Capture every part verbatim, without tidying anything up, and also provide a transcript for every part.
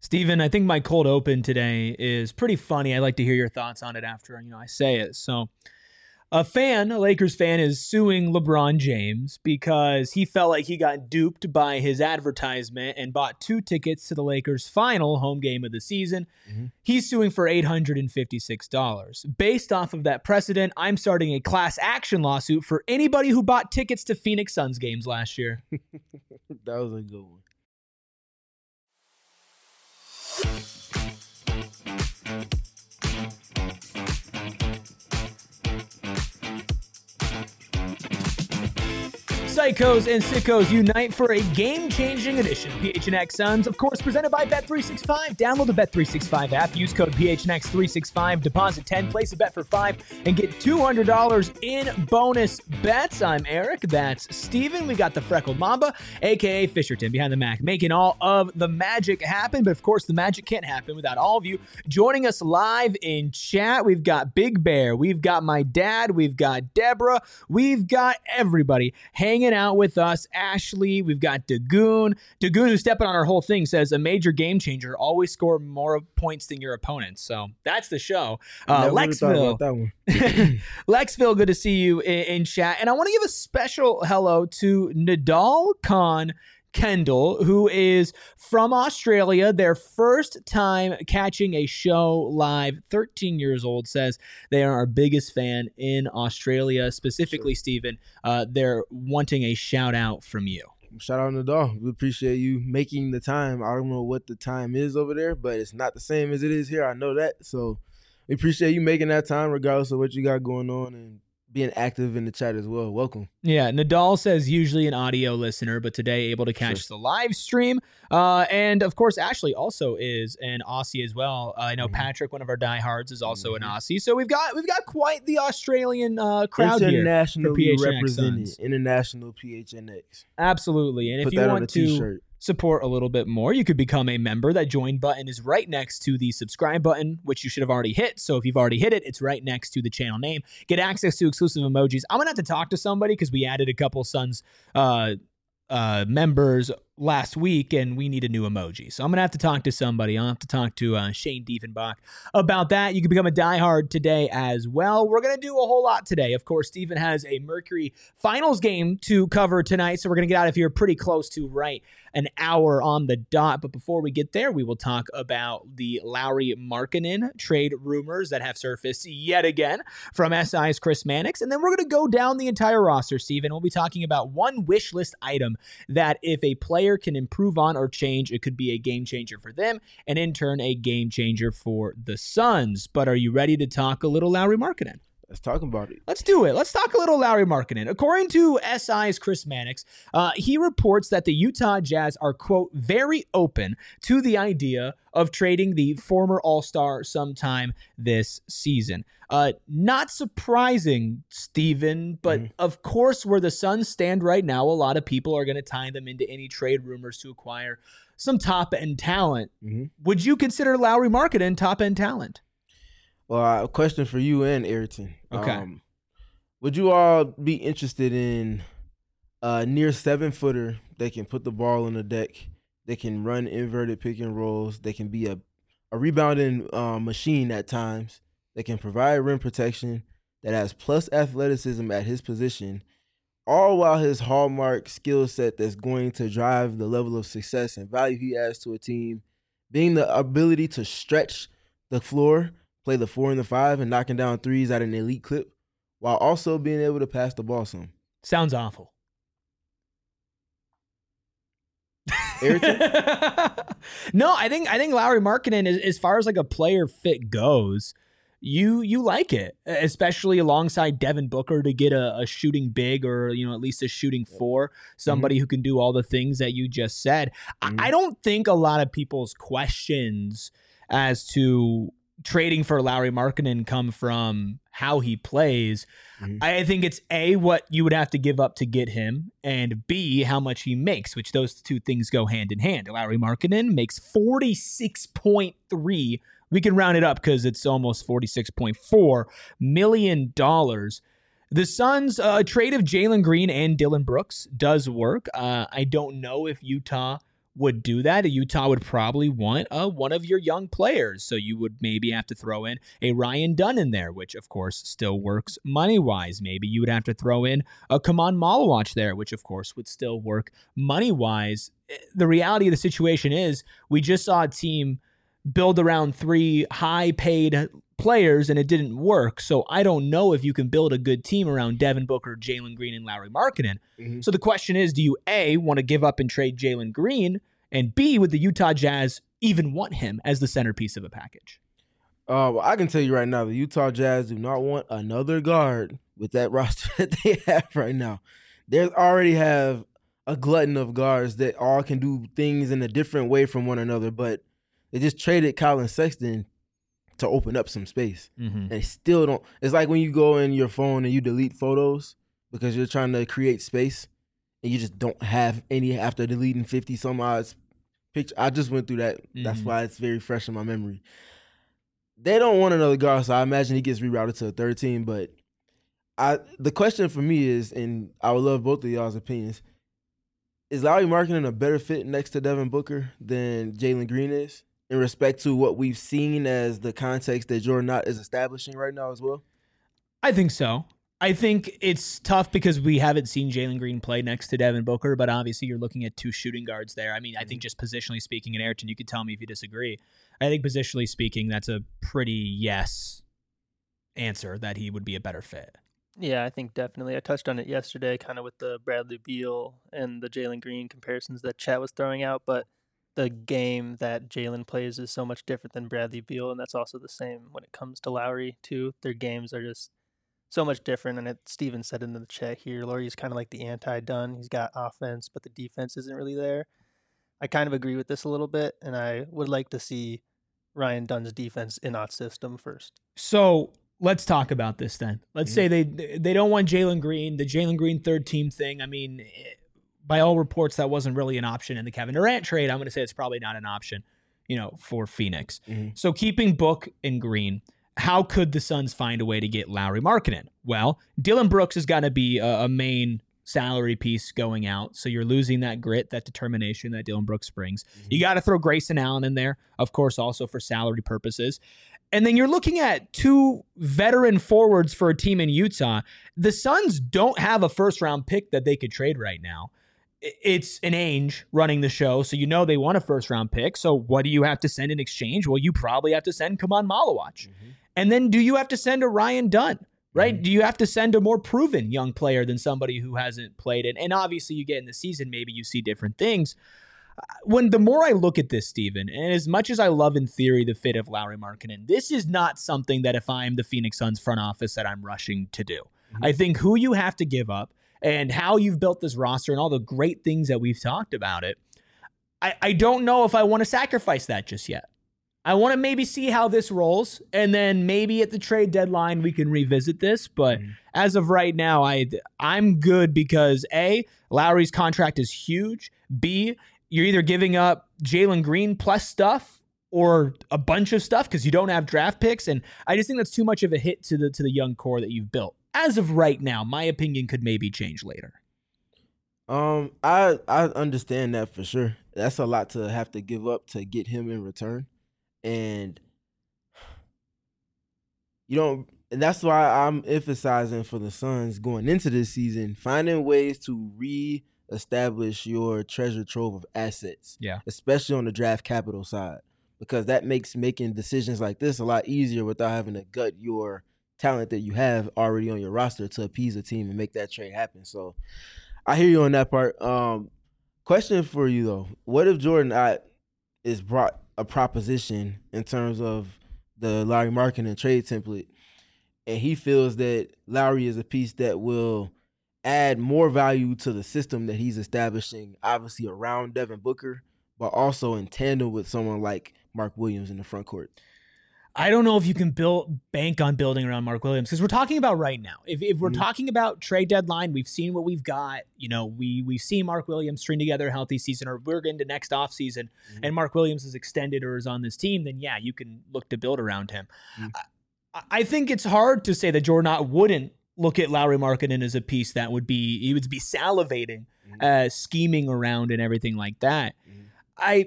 Steven, I think my cold open today is pretty funny. I'd like to hear your thoughts on it after, you know, I say it. So, a fan, a Lakers fan, is suing LeBron James because he felt like he got duped by his advertisement and bought two tickets to the Lakers' final home game of the season. Mm-hmm. He's suing for eight hundred fifty-six dollars. Based off of that precedent, I'm starting a class action lawsuit for anybody who bought tickets to Phoenix Suns games last year. That was a good one. Psychos and sickos unite for a game-changing edition. P H N X Suns, of course, presented by Bet three sixty-five. Download the Bet three sixty-five app. Use code P H N X three sixty-five. Deposit ten. Place a bet for five and get two hundred dollars in bonus bets. I'm Eric. That's Steven. We got the Freckled Mamba, a k a. Fisherton, behind the Mac, making all of the magic happen. But, of course, the magic can't happen without all of you joining us live in chat. We've got Big Bear. We've got my dad. We've got Deborah. We've got everybody hanging out with us. Ashley, we've got Dagoon. Dagoon, who's stepping on our whole thing, says a major game changer, always score more points than your opponents. So that's the show. Uh, Lexville. That one. Lexville, good to see you in, in chat. And I want to give a special hello to Nadal Khan Kendall, who is from Australia, their first time catching a show live, thirteen years old, says they are our biggest fan in Australia, specifically, sure. Stephen, uh, they're wanting a shout out from you. Shout out Nadal. We appreciate you making the time. I don't know what the time is over there, but it's not the same as it is here. I know that. So we appreciate you making that time regardless of what you got going on and being active in the chat as well. Welcome. Yeah, Nadal says usually an audio listener, but today able to catch sure. the live stream. Uh, and, of course, Ashley also is an Aussie as well. Uh, I know mm-hmm. Patrick, one of our diehards, is also mm-hmm. an Aussie. So we've got we've got quite the Australian uh, crowd here. Internationally represented. International P H N X. Absolutely. And Put if you that want on a to t-shirt. Support a little bit more, you could become a member. That join button is right next to the subscribe button, which you should have already hit. So if you've already hit it, it's right next to the channel name. Get access to exclusive emojis. I'm going to have to talk to somebody because we added a couple Suns uh, uh, members last week, and we need a new emoji. So I'm going to have to talk to somebody. I'll have to talk to uh, Shane Diefenbach about that. You can become a diehard today as well. We're going to do a whole lot today. Of course, Steven has a Mercury Finals game to cover tonight, so we're going to get out of here pretty close to right an hour on the dot. But before we get there, we will talk about the Lauri Markkanen trade rumors that have surfaced yet again from S I's Chris Mannix. And then we're going to go down the entire roster, Steven. We'll be talking about one wish list item that if a player can improve on or change, it could be a game changer for them, and in turn, a game changer for the Suns. But are you ready to talk a little Lauri Markkanen? Let's talk about it. Let's do it. Let's talk a little Lauri Markkanen. According to S I's Chris Mannix, uh, he reports that the Utah Jazz are, quote, very open to the idea of trading the former All-Star sometime this season. Uh, not surprising, Steven, but mm-hmm. of course, where the Suns stand right now, a lot of people are going to tie them into any trade rumors to acquire some top-end talent. Mm-hmm. Would you consider Lauri Markkanen top-end talent? Well, a question for you and Ayrton. Okay. Um, would you all be interested in a near seven-footer that can put the ball on the deck, that can run inverted pick and rolls, that can be a, a rebounding uh, machine at times, that can provide rim protection, that has plus athleticism at his position, all while his hallmark skill set that's going to drive the level of success and value he adds to a team, being the ability to stretch the floor, play the four and the five, and knocking down threes at an elite clip, while also being able to pass the ball some. Sounds awful. Ayrton? No, I think I think Lauri Markkanen, as, as far as like a player fit goes, you you like it, especially alongside Devin Booker to get a, a shooting big or, you know, at least a shooting four, somebody mm-hmm. who can do all the things that you just said. Mm-hmm. I, I don't think a lot of people's questions as to trading for Lauri Markkanen come from how he plays. Mm-hmm. I think it's A, what you would have to give up to get him, and B, how much he makes, which those two things go hand in hand. Lauri Markkanen makes forty-six point three. We can round it up because it's almost forty-six point four million dollars. The Suns' uh, trade of Jalen Green and Dillon Brooks does work. Uh, I don't know if Utah would do that, Utah would probably want uh, one of your young players. So you would maybe have to throw in a Ryan Dunn in there, which of course still works money-wise. Maybe you would have to throw in a Kaman Malawach there, which of course would still work money-wise. The reality of the situation is we just saw a team build around three high-paid players and it didn't work. So I don't know if you can build a good team around Devin Booker, Jalen Green, and Lauri Markkanen. Mm-hmm. So the question is, do you A, want to give up and trade Jalen Green, and B, would the Utah Jazz even want him as the centerpiece of a package? Uh, well, I can tell you right now, the Utah Jazz do not want another guard with that roster that they have right now. They already have a glutton of guards that all can do things in a different way from one another, but they just traded Colin Sexton to open up some space. Mm-hmm. And they still don't. It's like when you go in your phone and you delete photos because you're trying to create space and you just don't have any after deleting fifty some odd pictures. I just went through that. Mm-hmm. That's why it's very fresh in my memory. They don't want another guard, so I imagine he gets rerouted to a third team. But I, the question for me is, and I would love both of y'all's opinions, is Lauri Markkanen a better fit next to Devin Booker than Jalen Green is, in respect to what we've seen as the context that Jordan Knott is establishing right now as well? I think so. I think it's tough because we haven't seen Jalen Green play next to Devin Booker, but obviously you're looking at two shooting guards there. I mean, I think just positionally speaking, and Ayrton, you could tell me if you disagree. I think positionally speaking, that's a pretty yes answer that he would be a better fit. Yeah, I think definitely. I touched on it yesterday, kind of with the Bradley Beal and the Jalen Green comparisons that Chat was throwing out, but the game that Jalen plays is so much different than Bradley Beal, and that's also the same when it comes to Lauri, too. Their games are just so much different, and it, Steven said in the chat here, Lauri's kind of like the anti-Dunn. He's got offense, but the defense isn't really there. I kind of agree with this a little bit, and I would like to see Ryan Dunn's defense in Ott's system first. So let's talk about this then. Let's mm-hmm. say they they don't want Jalen Green, the Jalen Green third team thing. I mean, it, by all reports, that wasn't really an option in the Kevin Durant trade. I'm going to say it's probably not an option, you know, for Phoenix. Mm-hmm. So keeping Book and Green, how could the Suns find a way to get Lauri Markkanen? Well, Dillon Brooks has got to be a, a main salary piece going out. So you're losing that grit, that determination that Dillon Brooks brings. Mm-hmm. You got to throw Grayson Allen in there, of course, also for salary purposes. And then you're looking at two veteran forwards for a team in Utah. The Suns don't have a first-round pick that they could trade right now. It's an Ainge running the show, so you know they want a first-round pick. So what do you have to send in exchange? Well, you probably have to send Kaman Malawach. Mm-hmm. And then do you have to send a Ryan Dunn, right? Mm-hmm. Do you have to send a more proven young player than somebody who hasn't played it? And obviously you get in the season, maybe you see different things. When the more I look at this, Steven, and as much as I love in theory the fit of Lauri Markkanen, this is not something that if I'm the Phoenix Suns front office that I'm rushing to do. Mm-hmm. I think who you have to give up and how you've built this roster and all the great things that we've talked about it, I, I don't know if I want to sacrifice that just yet. I want to maybe see how this rolls, and then maybe at the trade deadline we can revisit this. But mm-hmm. as of right now, I, I'm good because A, Lauri's contract is huge. B, you're either giving up Jalen Green plus stuff or a bunch of stuff because you don't have draft picks. And I just think that's too much of a hit to the to the young core that you've built. As of right now, my opinion could maybe change later. Um, I I understand that for sure. That's a lot to have to give up to get him in return. And you know, and that's why I'm emphasizing for the Suns going into this season, finding ways to re-establish your treasure trove of assets. Yeah. Especially on the draft capital side. Because that makes making decisions like this a lot easier without having to gut your talent that you have already on your roster to appease a team and make that trade happen. So I hear you on that part. Um, question for you though: what if Jordan Ott is brought a proposition in terms of the Lauri Markkanen trade template, and he feels that Lauri is a piece that will add more value to the system that he's establishing, obviously around Devin Booker, but also in tandem with someone like Mark Williams in the front court? I don't know if you can build bank on building around Mark Williams because we're talking about right now. If if we're mm-hmm. talking about trade deadline, we've seen what we've got. You know, we we see Mark Williams string together a healthy season, or we're into next offseason, mm-hmm. and Mark Williams is extended or is on this team, then yeah, you can look to build around him. Mm-hmm. I, I think it's hard to say that Jordan Ott wouldn't look at Lauri Markkanen as a piece that would be, he would be salivating, mm-hmm. uh, scheming around and everything like that. Mm-hmm. I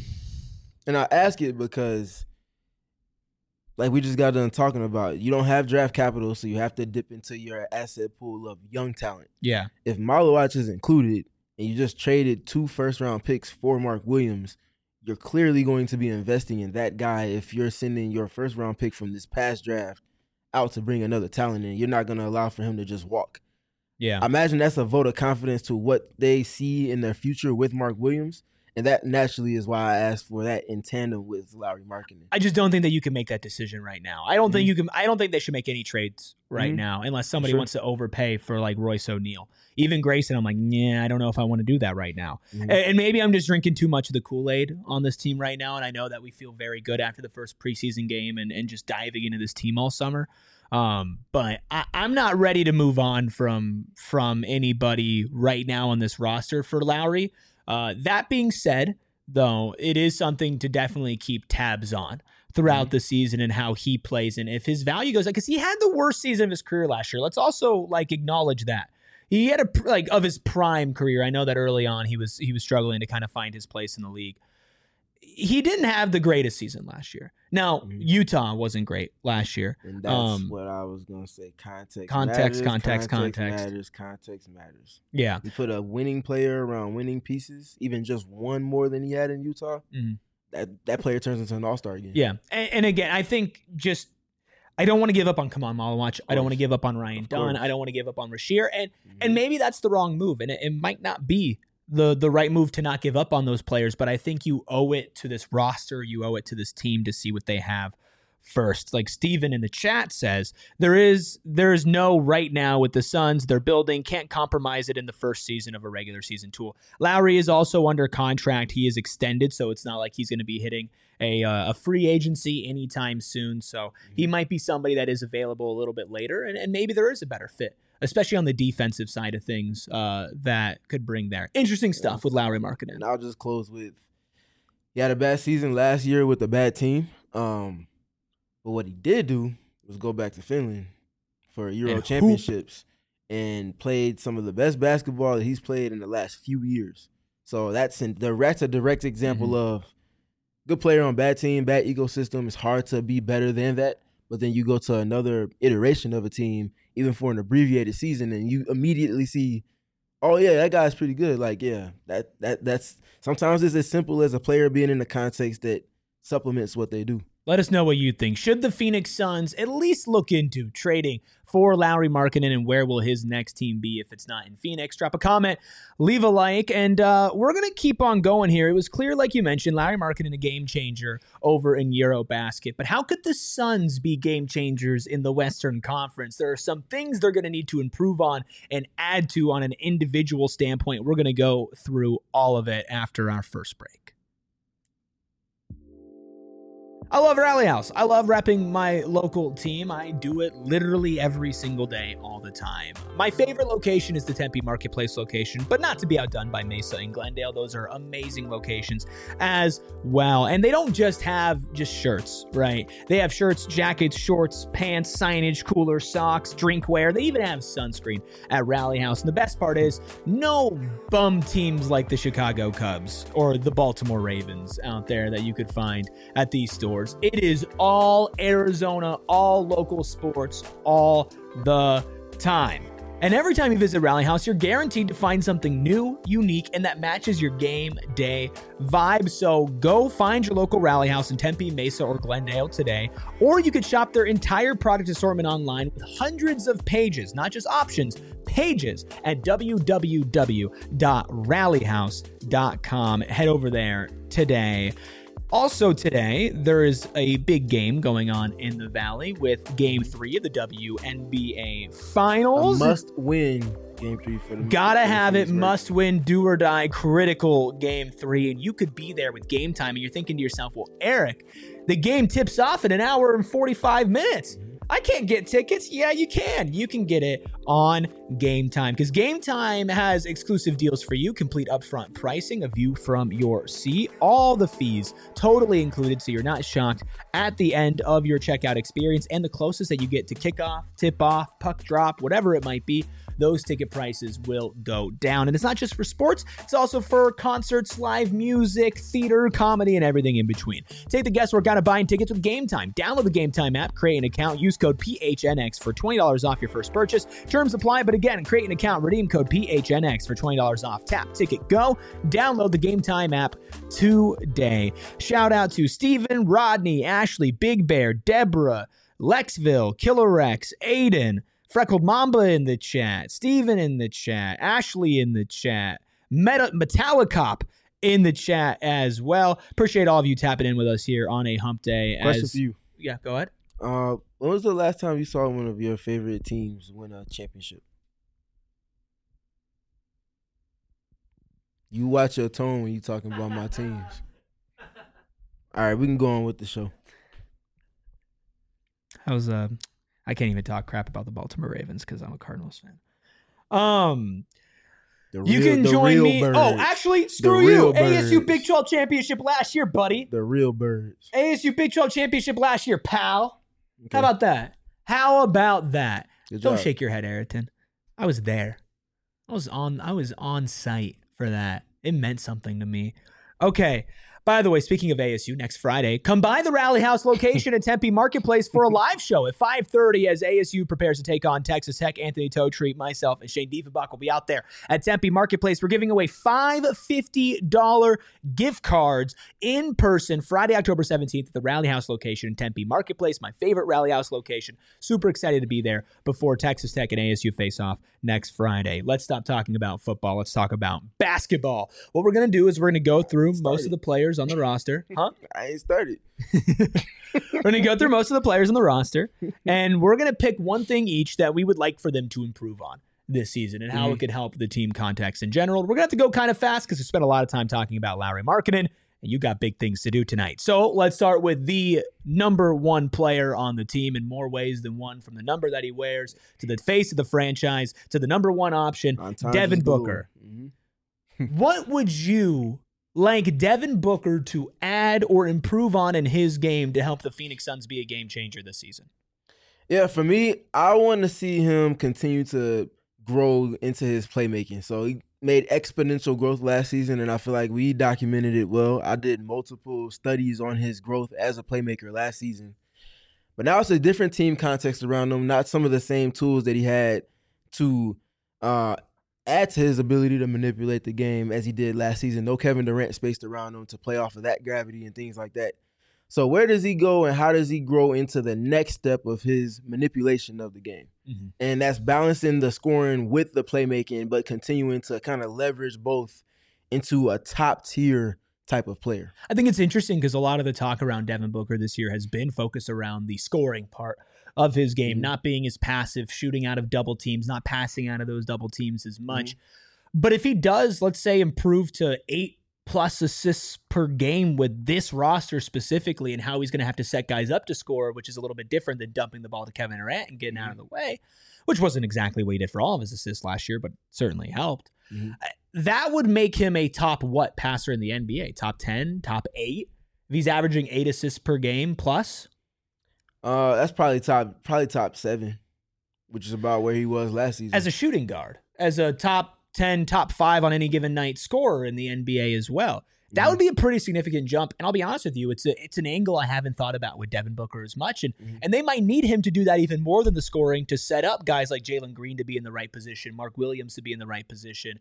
and I ask it because, like we just got done talking about, you don't have draft capital, so you have to dip into your asset pool of young talent. yeah. If Malawach is included and you just traded two first-round picks for Mark Williams, you're clearly going to be investing in that guy if you're sending your first-round pick from this past draft out to bring another talent in. You're not going to allow for him to just walk. Yeah. I imagine that's a vote of confidence to what they see in their future with Mark Williams. And that naturally is why I asked for that in tandem with Lauri Markkanen. I just don't think that you can make that decision right now. I don't Mm-hmm. think you can. I don't think they should make any trades right Mhm. now unless somebody Sure. wants to overpay for like Royce O'Neal. Even Grayson, I'm like, yeah, I don't know if I want to do that right now. Mhm. And, and maybe I'm just drinking too much of the Kool-Aid on this team right now. And I know that we feel very good after the first preseason game and, and just diving into this team all summer. Um, but I, I'm not ready to move on from from anybody right now on this roster for Lauri. Uh, that being said, though, it is something to definitely keep tabs on throughout the season and how he plays. And if his value goes, like, because he had the worst season of his career last year. Let's also like acknowledge that he had a pr- like of his prime career. I know that early on he was he was struggling to kind of find his place in the league. He didn't have the greatest season last year. Now, Mhm. Utah wasn't great last year. And that's Um, what I was going to say. Context, Context, matters, context, context. matters. Context matters. Yeah. You put a winning player around winning pieces, even just one more than he had in Utah, Mhm. that, that player turns into an all-star again. Yeah. And, and again, I think just I don't want to give up on Kaman Malawach. I don't want to give up on Ryan Of Dunn. course. I don't want to give up on Rasheer. And Mhm. and maybe that's the wrong move. And it, it might not be the the right move to not give up on those players, but I think you owe it to this roster, you owe it to this team to see what they have first. Like Steven in the chat says, there is there is no right now with the Suns. They're building, can't compromise it in the first season of a regular season tool. Lowry is also under contract. He is extended, so it's not like he's going to be hitting a uh, a free agency anytime soon. So he might be somebody that is available a little bit later, and, and maybe there is a better fit, especially on the defensive side of things, uh, that could bring there. Interesting stuff with Lauri Markkanen. And I'll just close with, he had a bad season last year with a bad team. Um, but what he did do was go back to Finland for Euro And hoop. championships and played some of the best basketball that he's played in the last few years. So that's in, that's a direct example Mhm. of good player on bad team, bad ecosystem. It's hard to be better than that. But then you go to another iteration of a team, even for an abbreviated season, and you immediately see, oh yeah, that guy's pretty good. Like, yeah, that that that's sometimes it's as simple as a player being in the context that supplements what they do. Let us know what you think. Should the Phoenix Suns at least look into trading for Lauri Markkanen, and where will his next team be if it's not in Phoenix? Drop a comment, leave a like, and uh, we're going to keep on going here. It was clear, like you mentioned, Lauri Markkanen a game changer over in Eurobasket, but how could the Suns be game changers in the Western Conference? There are some things they're going to need to improve on and add to on an individual standpoint. We're going to go through all of it after our first break. I love Rally House. I love repping my local team. I do it literally every single day, all the time. My favorite location is the Tempe Marketplace location, but not to be outdone by Mesa and Glendale. Those are amazing locations as well. And they don't just have just shirts, right? They have shirts, jackets, shorts, pants, signage, coolers, socks, drinkware. They even have sunscreen at Rally House. And the best part is no bum teams like the Chicago Cubs or the Baltimore Ravens out there that you could find at these stores. It is all Arizona, all local sports, all the time. And every time you visit Rally House, you're guaranteed to find something new, unique, and that matches your game day vibe. So go find your local Rally House in Tempe, Mesa, or Glendale today. Or you could shop their entire product assortment online with hundreds of pages, not just options, pages at w w w dot rally house dot com. Head over there today. Also today, there is a big game going on in the Valley with Game three of the W N B A Finals. A must win game three for the Gotta for the have it, Phoenix must win, do or die, critical game three. And you could be there with Game Time, and you're thinking to yourself, well, Eric, the game tips off in an hour and forty-five minutes. I can't get tickets. Yeah, you can. You can get it on Game Time, because Game Time has exclusive deals for you, complete upfront pricing, a view from your seat, all the fees totally included, so you're not shocked at the end of your checkout experience, and the closest that you get to kickoff, tip off, puck drop, whatever it might be, those ticket prices will go down. And it's not just for sports, it's also for concerts, live music, theater, comedy, and everything in between. Take the guesswork out of buying tickets with Game Time. Download the Game Time app, create an account, use code P H N X for twenty dollars off your first purchase. Terms apply, but again, create an account, redeem code P H N X for twenty dollars off. Tap, ticket, go. Download the Game Time app today. Shout out to Steven, Rodney, Ashley, Big Bear, Deborah, Lexville, Killer Rex, Aiden, Freckled Mamba in the chat, Steven in the chat, Ashley in the chat, Meta- Metallicop in the chat as well. Appreciate all of you tapping in with us here on a hump day. Question as, for you. Yeah, go ahead. Uh, when was the last time you saw one of your favorite teams win a championship? You watch your tone when you talking about my teams. All right, we can go on with the show. I was uh I can't even talk crap about the Baltimore Ravens because I'm a Cardinals fan. Um The you real- can the join real me. birds. Oh, actually, screw real you. A S U birds. Big twelve championship last year, buddy. The real birds. A S U Big twelve championship last year, pal. Okay. How about that? How about that? Good Don't job. shake your head, Ayrton. I was there. I was on I was on site for that. It meant something to me. Okay. By the way, speaking of A S U, next Friday, come by the Rally House location at Tempe Marketplace for a live show at five thirty as A S U prepares to take on Texas Tech. Anthony Totri, myself, and Shane Diefenbach will be out there at Tempe Marketplace. We're giving away five fifty dollars gift cards in person Friday, October seventeenth at the Rally House location in Tempe Marketplace, my favorite Rally House location. Super excited to be there before Texas Tech and A S U face off next Friday. Let's stop talking about football. Let's talk about basketball. What we're going to do is we're going to go through most of the players on the roster. Huh? I ain't started. We're going to go through most of the players on the roster, and we're going to pick one thing each that we would like for them to improve on this season and how Mhm. it could help the team context in general. We're going to have to go kind of fast because we spent a lot of time talking about Lauri Markkanen, and you got big things to do tonight. So let's start with the number one player on the team in more ways than one, from the number that he wears to the face of the franchise to the number one option, On time Devin is galore. Booker. Mhm. What would you like Devin Booker to add or improve on in his game to help the Phoenix Suns be a game changer this season? Yeah, for me, I want to see him continue to grow into his playmaking. So he made exponential growth last season, and I feel like we documented it well. I did multiple studies on his growth as a playmaker last season. But now it's a different team context around him, not some of the same tools that he had to uh, add to his ability to manipulate the game as he did last season. No Kevin Durant spaced around him to play off of that gravity and things like that. So where does he go and how does he grow into the next step of his manipulation of the game? Mm-hmm. And that's balancing the scoring with the playmaking, but continuing to kind of leverage both into a top tier type of player. I think it's interesting because a lot of the talk around Devin Booker this year has been focused around the scoring part of his game, Mhm. not being as passive, shooting out of double teams, not passing out of those double teams as much. Mhm. But if he does, let's say, improve to eight plus assists per game with this roster specifically and how he's going to have to set guys up to score, which is a little bit different than dumping the ball to Kevin Durant and getting Mhm. out of the way, which wasn't exactly what he did for all of his assists last year, but certainly helped. Mhm. That would make him a top what passer in the N B A? Top ten, top eight? If he's averaging eight assists per game plus? Uh, that's probably top probably top seven, which is about where he was last season. As a shooting guard, as a top ten, top five on any given night scorer in the N B A as well. That would be a pretty significant jump. And I'll be honest with you, it's a, it's an angle I haven't thought about with Devin Booker as much. And, Mhm. and they might need him to do that even more than the scoring to set up guys like Jalen Green to be in the right position, Mark Williams to be in the right position.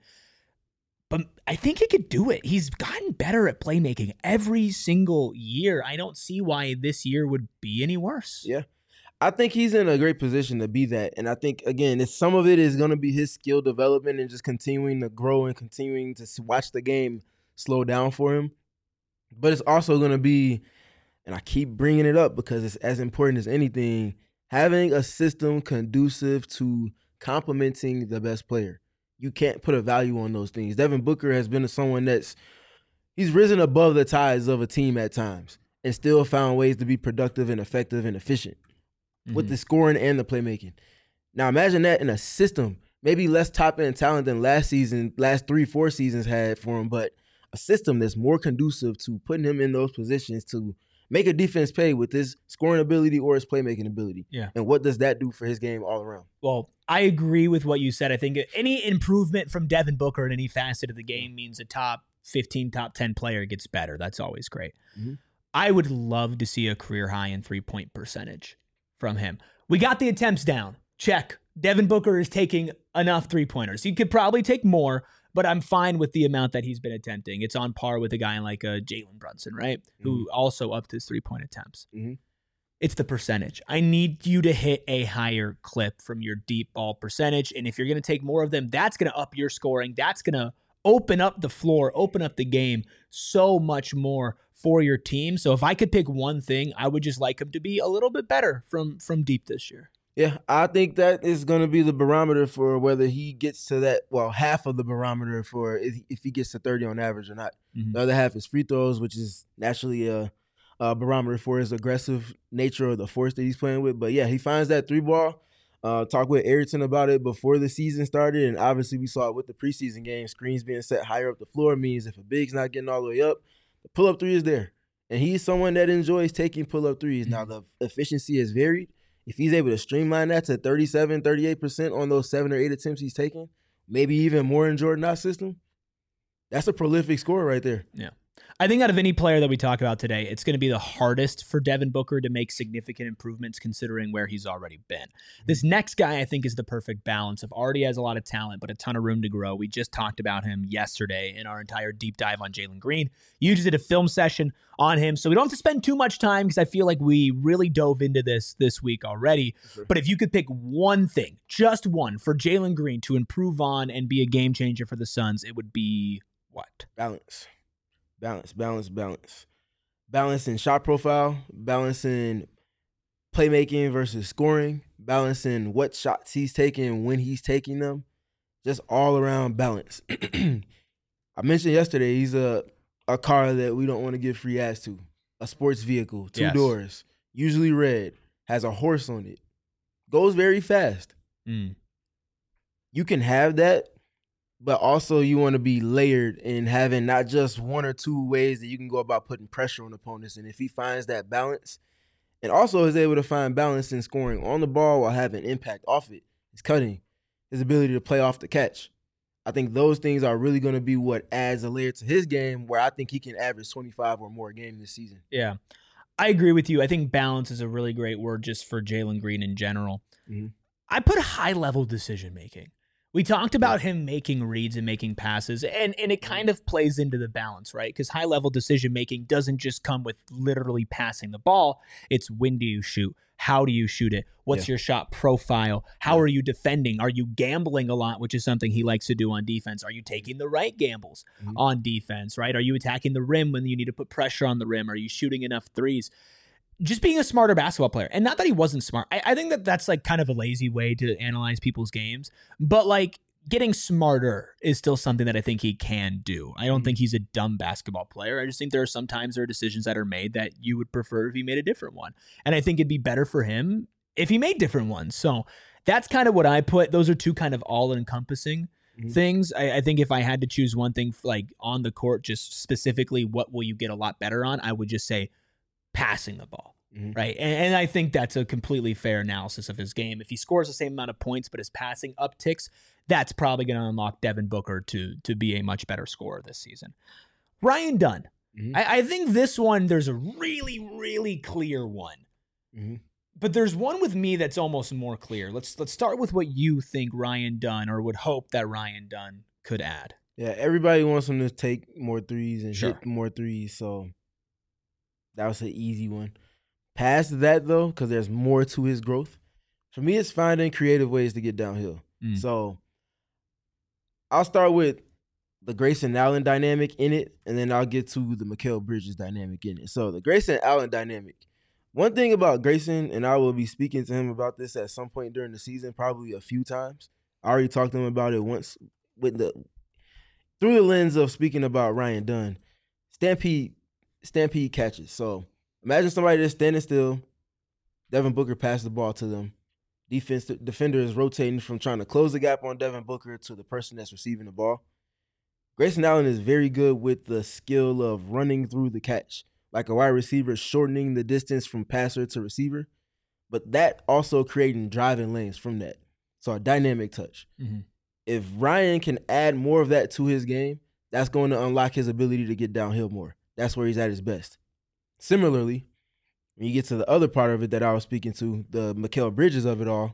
But I think he could do it. He's gotten better at playmaking every single year. I don't see why this year would be any worse. Yeah. I think he's in a great position to be that. And I think, again, it's, some of it is going to be his skill development and just continuing to grow and continuing to s- watch the game slow down for him. But it's also going to be, and I keep bringing it up because it's as important as anything, having a system conducive to complementing the best player. You can't put a value on those things. Devin Booker has been someone that's, he's risen above the tides of a team at times and still found ways to be productive and effective and efficient with the scoring and the playmaking. Now imagine that in a system, maybe less top end talent than last season, last three, four seasons had for him, but a system that's more conducive to putting him in those positions to make a defense pay with his scoring ability or his playmaking ability. Yeah. And what does that do for his game all around? Well, I agree with what you said. I think any improvement from Devin Booker in any facet of the game means a top fifteen, top ten player gets better. That's always great. Mm-hmm. I would love to see a career high in three-point percentage from him. We got the attempts down. Check. Devin Booker is taking enough three-pointers. He could probably take more, but I'm fine with the amount that he's been attempting. It's on par with a guy like a Jalen Brunson, right? Mm-hmm. Who also upped his three-point attempts. Mm-hmm. It's the percentage. I need you to hit a higher clip from your deep ball percentage. And if you're going to take more of them, that's going to up your scoring. That's going to open up the floor, open up the game so much more for your team. So if I could pick one thing, I would just like him to be a little bit better from, from deep this year. Yeah, I think that is going to be the barometer for whether he gets to that, well, half of the barometer for if, if he gets to thirty on average or not. Mm-hmm. The other half is free throws, which is naturally a, a barometer for his aggressive nature or the force that he's playing with. But, yeah, he finds that three ball. Uh, talked with Ayrton about it before the season started, and obviously we saw it with the preseason game. Screens being set higher up the floor means if a big's not getting all the way up, the pull-up three is there. And he's someone that enjoys taking pull-up threes. Now, the efficiency has varied. If he's able to streamline that to thirty-seven, thirty-eight percent on those seven or eight attempts he's taking, maybe even more in Jordan Knox's system, that's a prolific scorer right there. Yeah. I think out of any player that we talk about today, it's going to be the hardest for Devin Booker to make significant improvements considering where he's already been. This next guy, I think, is the perfect balance of already has a lot of talent, but a ton of room to grow. We just talked about him yesterday in our entire deep dive on Jalen Green. You just did a film session on him, so we don't have to spend too much time because I feel like we really dove into this this week already. Sure. But if you could pick one thing, just one, for Jalen Green to improve on and be a game changer for the Suns, it would be what? Balance. Balance, balance, balance. Balance in shot profile, balance in playmaking versus scoring, balance in what shots he's taking, when he's taking them. Just all around balance. I mentioned yesterday he's a, a car that we don't want to give free ass to. A sports vehicle, two yes. doors, usually red, has a horse on it, goes very fast. Mm. You can have that. But also you want to be layered in having not just one or two ways that you can go about putting pressure on opponents. And if he finds that balance and also is able to find balance in scoring on the ball while having impact off it, his cutting, his ability to play off the catch, I think those things are really going to be what adds a layer to his game where I think he can average twenty-five or more a game this season. Yeah, I agree with you. I think balance is a really great word just for Jalen Green in general. Mm-hmm. I put high-level decision-making. We talked about him making reads and making passes, and, and it kind of plays into the balance, right? Because high-level decision-making doesn't just come with literally passing the ball. It's when do you shoot? How do you shoot it? What's yeah. your shot profile? How yeah. are you defending? Are you gambling a lot, which is something he likes to do on defense? Are you taking the right gambles mm-hmm. on defense, right? Are you attacking the rim when you need to put pressure on the rim? Are you shooting enough threes? Just being a smarter basketball player. And not that he wasn't smart. I, I think that that's like kind of a lazy way to analyze people's games. But like getting smarter is still something that I think he can do. I don't mm-hmm. think he's a dumb basketball player. I just think there are sometimes there are decisions that are made that you would prefer if he made a different one. And I think it'd be better for him if he made different ones. So that's kind of what I put. Those are two kind of all-encompassing mm-hmm. things. I, I think if I had to choose one thing like on the court, just specifically what will you get a lot better on, I would just say passing the ball, mm-hmm. right? And, and I think that's a completely fair analysis of his game. If he scores the same amount of points, but his passing upticks, that's probably going to unlock Devin Booker to, to be a much better scorer this season. Ryan Dunn. Mm-hmm. I, I think this one, there's a really, really clear one. Mm-hmm. But there's one with me that's almost more clear. Let's let's start with what you think Ryan Dunn or would hope that Ryan Dunn could add. Yeah, everybody wants him to take more threes and sure. hit more threes, so that was an easy one. Past that, though, because there's more to his growth, for me, it's finding creative ways to get downhill. Mm. So I'll start with the Grayson Allen dynamic in it, and then I'll get to the Mikal Bridges dynamic in it. So the Grayson Allen dynamic. One thing about Grayson, and I will be speaking to him about this at some point during the season, probably a few times. I already talked to him about it once with the through the lens of speaking about Ryan Dunn. Stampede Stampede catches. So imagine somebody that's standing still. Devin Booker passes the ball to them. Defense defender is rotating from trying to close the gap on Devin Booker to the person that's receiving the ball. Grayson Allen is very good with the skill of running through the catch. like a wide receiver shortening the distance from passer to receiver, but that also creating driving lanes from that. So a dynamic touch. Mm-hmm. If Ryan can add more of that to his game, that's going to unlock his ability to get downhill more. That's where he's at his best. Similarly, when you get to the other part of it that I was speaking to, the Mikal Bridges of it all,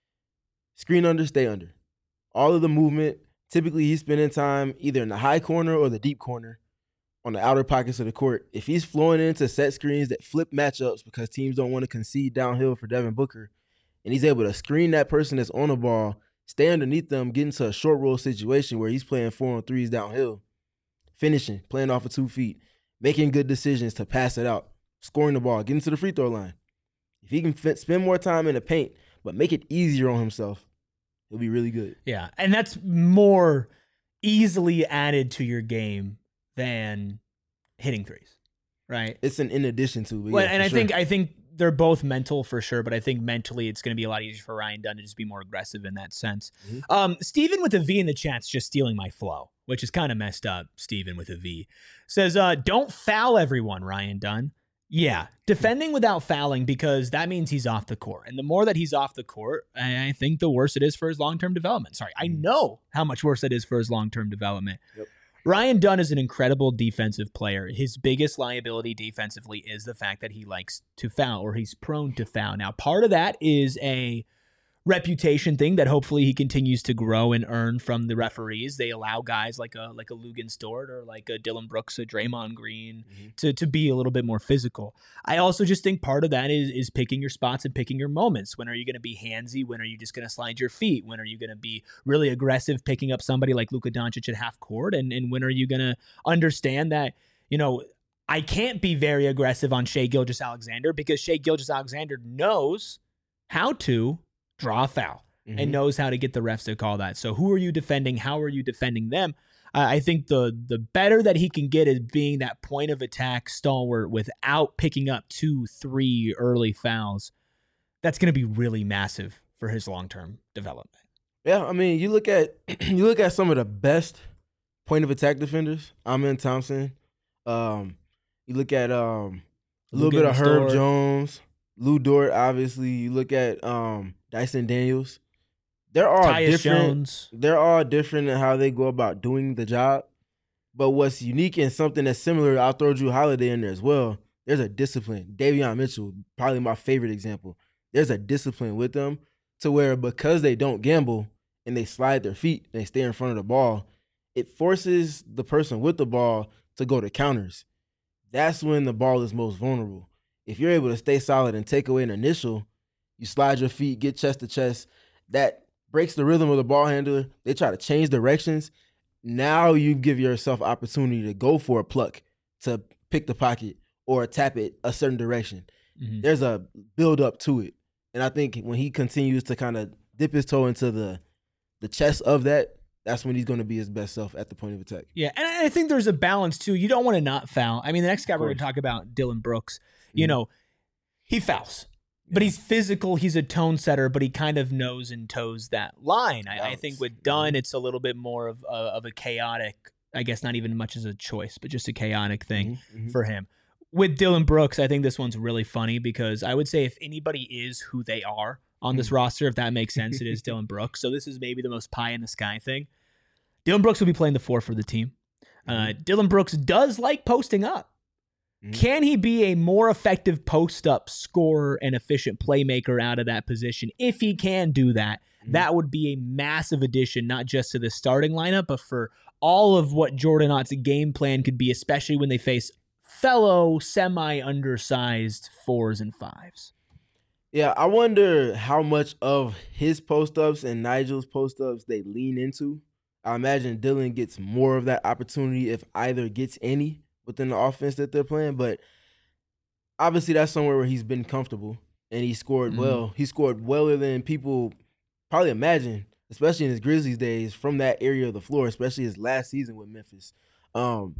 screen under, stay under. All of the movement, typically he's spending time either in the high corner or the deep corner on the outer pockets of the court. If he's flowing into set screens that flip matchups because teams don't want to concede downhill for Devin Booker, and he's able to screen that person that's on the ball, stay underneath them, get into a short roll situation where he's playing four on threes downhill, finishing, playing off of two feet, making good decisions to pass it out, scoring the ball, getting to the free throw line. If he can fit, spend more time in the paint, but make it easier on himself, he'll be really good. Yeah, and that's more easily added to your game than hitting threes, right? It's an in addition to. But well, yeah, and I sure. think I think they're both mental for sure, but I think mentally it's going to be a lot easier for Ryan Dunn to just be more aggressive in that sense. Mm-hmm. Um, Steven with a V in the chat's just stealing my flow, which is kind of messed up. Steven with a V says, uh, don't foul everyone, Ryan Dunn. Yeah, defending without fouling, because that means he's off the court. And the more that he's off the court, I think the worse it is for his long-term development. Sorry, I know how much worse it is for his long-term development. Yep. Ryan Dunn is an incredible defensive player. His biggest liability defensively is the fact that he likes to foul, or he's prone to foul. Now, part of that is a reputation thing that hopefully he continues to grow and earn from the referees. They allow guys like a like a Lugan Stewart or like a Dillon Brooks, a Draymond Green mm-hmm. to, to be a little bit more physical. I also just think part of that is is picking your spots and picking your moments. When are you going to be handsy? When are you just going to slide your feet? When are you going to be really aggressive, picking up somebody like Luka Doncic at half court? And, and when are you going to understand that, you know, I can't be very aggressive on Shai Gilgeous-Alexander because Shai Gilgeous-Alexander knows how to draw a foul mm-hmm. and knows how to get the refs to call that. So who are you defending? How are you defending them? Uh, I think the the better that he can get is being that point of attack stalwart without picking up two, three early fouls. That's going to be really massive for his long-term development. Yeah, I mean, you look at you look at some of the best point of attack defenders. Amen Thompson. Um, you look at um, a little Lugan bit of Herb Stewart. Jones, Lou Dort. Obviously, you look at um, Dyson Daniels. They're all Tyus different. Jones. They're all different in how they go about doing the job. But what's unique and something that's similar, I'll throw Drew Holiday in there as well. There's a discipline. Davion Mitchell, probably my favorite example. There's a discipline with them to where because they don't gamble and they slide their feet and they stay in front of the ball, it forces the person with the ball to go to counters. That's when the ball is most vulnerable. If you're able to stay solid and take away an initial, you slide your feet, get chest to chest, that breaks the rhythm of the ball handler. They try to change directions. Now you give yourself opportunity to go for a pluck, to pick the pocket or tap it a certain direction. Mm-hmm. There's a build up to it. And I think when he continues to kind of dip his toe into the the chest of that, that's when he's going to be his best self at the point of attack. Yeah, and I think there's a balance, too. You don't want to not foul. I mean, the next guy we're going to talk about, Dillon Brooks, you Mm-hmm. know, he fouls. But he's physical, he's a tone setter, but he kind of knows and toes that line. I, I think with Dunn, it's a little bit more of, uh, of a chaotic, I guess not even much as a choice, but just a chaotic thing Mm-hmm, mm-hmm. for him. With Dillon Brooks, I think this one's really funny because I would say if anybody is who they are on this Mm. roster, if that makes sense, it is Dillon Brooks. So this is maybe the most pie in the sky thing. Dillon Brooks will be playing the four for the team. Uh, Dillon Brooks does like posting up. Mhm. Can he be a more effective post-up scorer and efficient playmaker out of that position? If he can do that, Mhm. that would be a massive addition, not just to the starting lineup, but for all of what Jordan Ott's game plan could be, especially when they face fellow semi-undersized fours and fives. Yeah, I wonder how much of his post-ups and Nigel's post-ups they lean into. I imagine Dillon gets more of that opportunity if either gets any within the offense that they're playing, but obviously that's somewhere where he's been comfortable and he scored Mhm. well. He scored weller than people probably imagine, especially in his Grizzlies days from that area of the floor, especially his last season with Memphis. Um,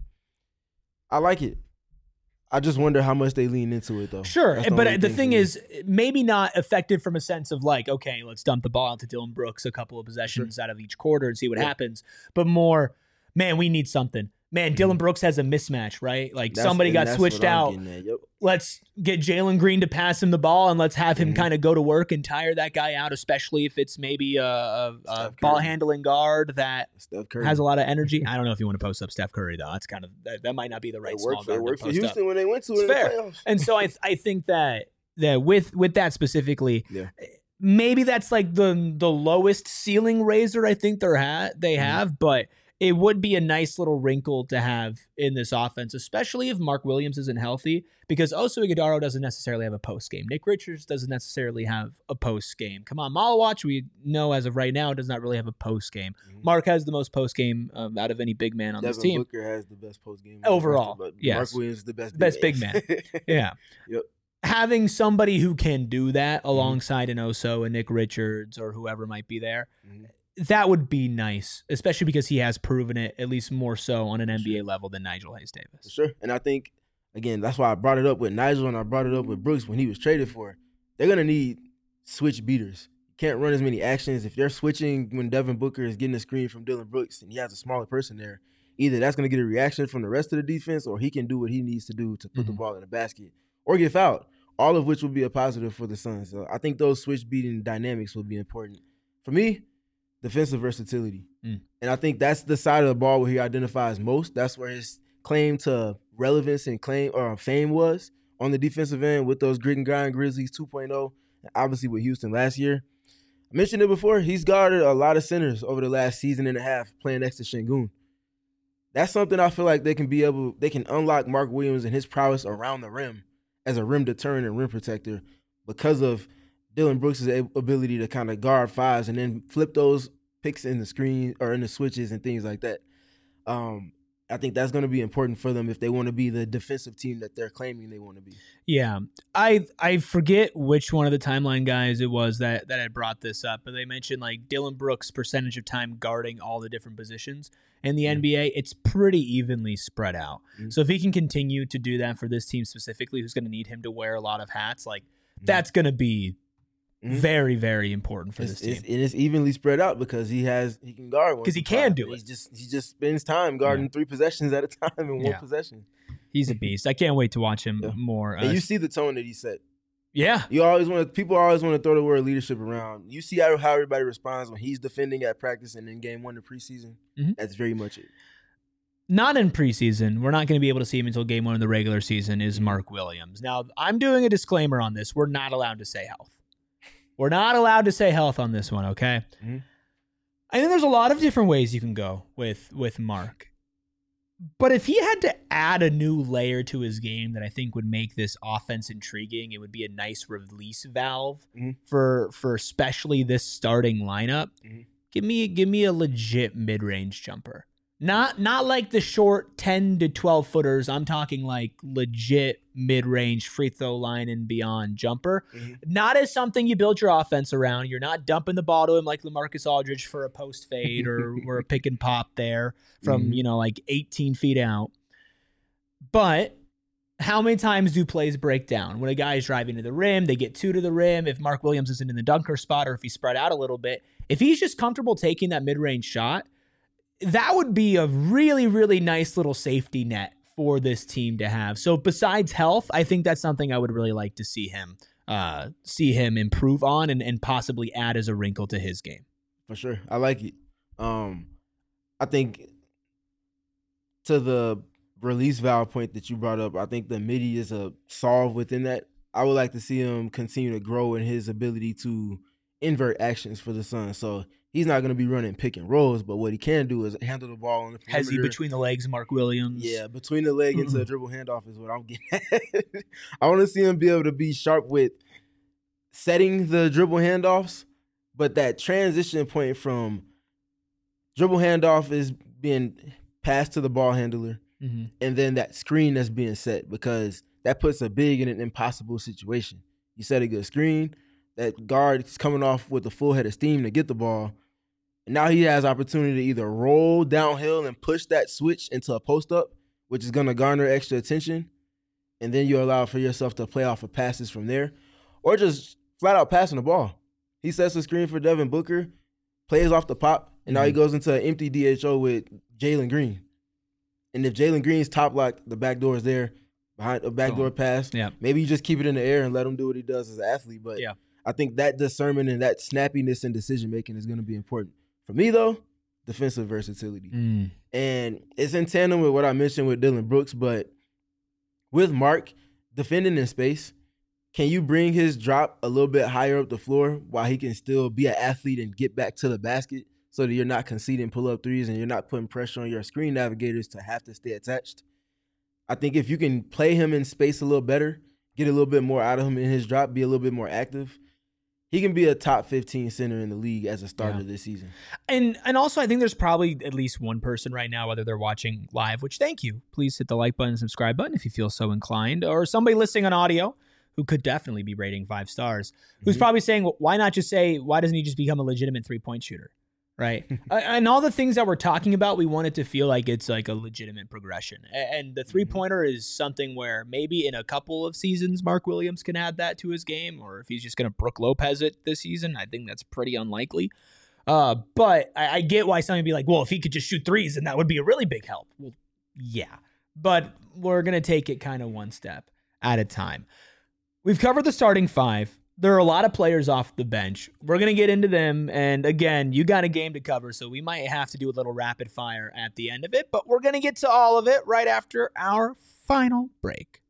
I like it. I just wonder how much they lean into it, though. Sure, That's but only the for thing me. is, maybe not effective from a sense of like, okay, let's dump the ball out to Dillon Brooks a couple of possessions out of each quarter and see what Yeah. happens, but more, man, we need something. man, Dylan Brooks has a mismatch, right? Like That's- somebody and got that's switched what I'm out. getting at. Yep. Let's get Jalen Green to pass him the ball and let's have him Mhm. kind of go to work and tire that guy out, especially if it's maybe a, a, a Steph ball Curry. handling guard that Steph Curry. has a lot of energy. I don't know if you want to post up Steph Curry though. That's kind of that, that might not be the right It small worked, guard it to worked for post up. Houston when they went to It's it in fair. the playoffs. And so I I think that that with with that specifically, Yeah. maybe that's like the the lowest ceiling raiser I think they're ha- they Mhm. have, but it would be a nice little wrinkle to have in this offense, especially if Mark Williams isn't healthy, because Oso Ighodaro doesn't necessarily have a post game. Nick Richards doesn't necessarily have a post game. Come on, Malawatch, we know as of right now does not really have a post game. Mhm. Mark has the most post game um, out of any big man on Devin this team. Booker has the best post game Overall, but yes. Mark Williams is the best Best big man. Yeah. Yep. Having somebody who can do that alongside an Oso and Nick Richards or whoever might be there, Mhm. that would be nice, especially because he has proven it at least more so on an N B A level than Nigel Hayes For Davis. sure. And I think, again, that's why I brought it up with Nigel and I brought it up with Brooks when he was traded for. They're going to need switch beaters. You can't run as many actions. If they're switching when Devin Booker is getting a screen from Dylan Brooks and he has a smaller person there, either that's going to get a reaction from the rest of the defense or he can do what he needs to do to put the Mhm. ball in the basket or get fouled, all of which will be a positive for the Suns. So I think those switch beating dynamics will be important. For me, defensive versatility. Mm. And I think that's the side of the ball where he identifies most. That's where his claim to relevance and claim or fame was on the defensive end with those grit and grind Grizzlies two point oh, and obviously with Houston last year. I mentioned it before. He's guarded a lot of centers over the last season and a half playing next to Şengün. That's something I feel like they can be able, they can unlock Mark Williams and his prowess around the rim as a rim deterrent and rim protector because of Dylan Brooks' ability to kind of guard fives and then flip those picks in the screen or in the switches and things like that. Um, I think that's going to be important for them if they want to be the defensive team that they're claiming they want to be. Yeah, I I forget which one of the timeline guys it was that that had brought this up, but they mentioned like Dylan Brooks' percentage of time guarding all the different positions in the N B A. It's pretty evenly spread out. Mhm. So if he can continue to do that for this team specifically, who's going to need him to wear a lot of hats, like Mhm. that's going to be Mhm. very very important for It's, this team. it's, and it's evenly spread out because he has he can guard one 'Cause he through can five. do He's it. just he just spends time guarding three possessions at a time in one Yeah. possession. He's a beast. I can't wait to watch him Yeah. more. Uh, And you see the tone that he set. yeah, You always want to, people always want to throw the word leadership around. You see how, how everybody responds when he's defending at practice and in game one of preseason. Mhm. That's very much it. not in preseason. We're not going to be able to see him until game one of the regular season is Mark Williams. Now, I'm doing a disclaimer on this. We're not allowed to say health. We're not allowed to say health on this one, okay? Mhm. I think there's a lot of different ways you can go with, with Mark. But if he had to add a new layer to his game that I think would make this offense intriguing, it would be a nice release valve Mhm. for for especially this starting lineup. Mhm. Give me give me a legit mid-range jumper. Not not like the short ten to twelve footers. I'm talking like legit mid-range free throw line and beyond jumper. Mhm. Not as something you build your offense around. You're not dumping the ball to him like LaMarcus Aldridge for a post fade or, or a pick and pop there from, Mhm. you know, like eighteen feet out. But how many times do plays break down? When a guy is driving to the rim, they get two to the rim. If Mark Williams isn't in the dunker spot or if he's spread out a little bit, if he's just comfortable taking that mid-range shot, that would be a really, really nice little safety net for this team to have. So besides health, I think that's something I would really like to see him uh, see him improve on and, and possibly add as a wrinkle to his game. For sure. I like it. Um, I think to the release valve point that you brought up, I think the midi is a solve within that. I would like to see him continue to grow in his ability to invert actions for the Suns. So he's not going to be running pick and rolls, but what he can do is handle the ball on the perimeter. Has he between the legs, Mark Williams? Yeah, between the leg into a dribble handoff is what I'm getting at. I want to see him be able to be sharp with setting the dribble handoffs, but that transition point from dribble handoff is being passed to the ball handler, Mm-hmm. and then that screen that's being set, because that puts a big in an impossible situation. You set a good screen, that guard is coming off with a full head of steam to get the ball, and now he has opportunity to either roll downhill and push that switch into a post-up, which is going to garner extra attention, and then you allow for yourself to play off of passes from there, or just flat out passing the ball. He sets a screen for Devin Booker, plays off the pop, and now he goes into an empty D H O with Jalen Green. And if Jalen Green's top lock, the back door is there, behind a backdoor pass, yeah. maybe you just keep it in the air and let him do what he does as an athlete. But yeah. I think that discernment and that snappiness in decision-making is going to be important. For me, though, defensive versatility. Mm. And it's in tandem with what I mentioned with Dylan Brooks, but with Mark defending in space, can you bring his drop a little bit higher up the floor while he can still be an athlete and get back to the basket so that you're not conceding pull-up threes and you're not putting pressure on your screen navigators to have to stay attached? I think if you can play him in space a little better, get a little bit more out of him in his drop, be a little bit more active, he can be a top fifteen center in the league as a starter yeah. this season. And and also I think there's probably at least one person right now, whether they're watching live, which thank you. Please hit the like button and subscribe button if you feel so inclined, or somebody listening on audio who could definitely be rating five stars, who's mm-hmm. probably saying, well, why not just say, why doesn't he just become a legitimate three-point shooter? Right. And all the things that we're talking about, we want it to feel like it's like a legitimate progression. And the three-pointer is something where maybe in a couple of seasons, Mark Williams can add that to his game, or if he's just going to Brook Lopez it this season, I think that's pretty unlikely. Uh, but I, I get why somebody would be like, well, if he could just shoot threes, then that would be a really big help. Well, yeah. But we're going to take it kind of one step at a time. We've covered the starting five. There are a lot of players off the bench. We're going to get into them. And again, you got a game to cover, so we might have to do a little rapid fire at the end of it, but we're going to get to all of it right after our final break.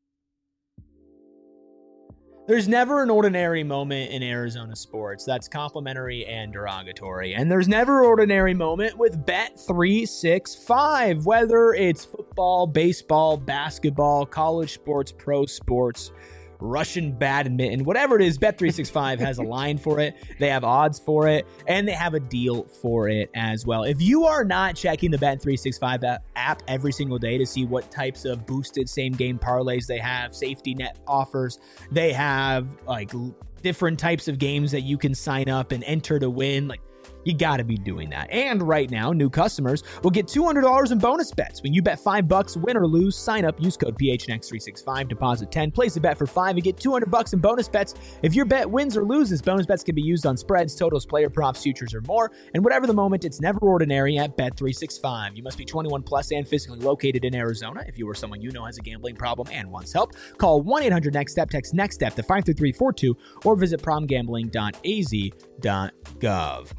There's never an ordinary moment in Arizona sports that's complimentary and derogatory. And there's never an ordinary moment with Bet three sixty-five, whether it's football, baseball, basketball, college sports, pro sports, Russian badminton, whatever it is, Bet three sixty-five has a line for it. They have odds for it, and they have a deal for it as well. If you are not checking the Bet three sixty-five app every single day to see what types of boosted same-game parlays they have, safety net offers, they have like different types of games that you can sign up and enter to win, like, you got to be doing that. And right now, new customers will get two hundred dollars in bonus bets. When you bet five bucks, win or lose, sign up, use code P H N X three sixty-five, deposit ten, place a bet for five, and get two hundred bucks in bonus bets. If your bet wins or loses, bonus bets can be used on spreads, totals, player props, futures, or more. And whatever the moment, it's never ordinary at Bet three sixty-five. You must be twenty-one plus and physically located in Arizona. If you or someone you know has a gambling problem and wants help, call one eight hundred next step, text NEXTSTEP to five three three four two, or visit prom gambling dot a z dot gov.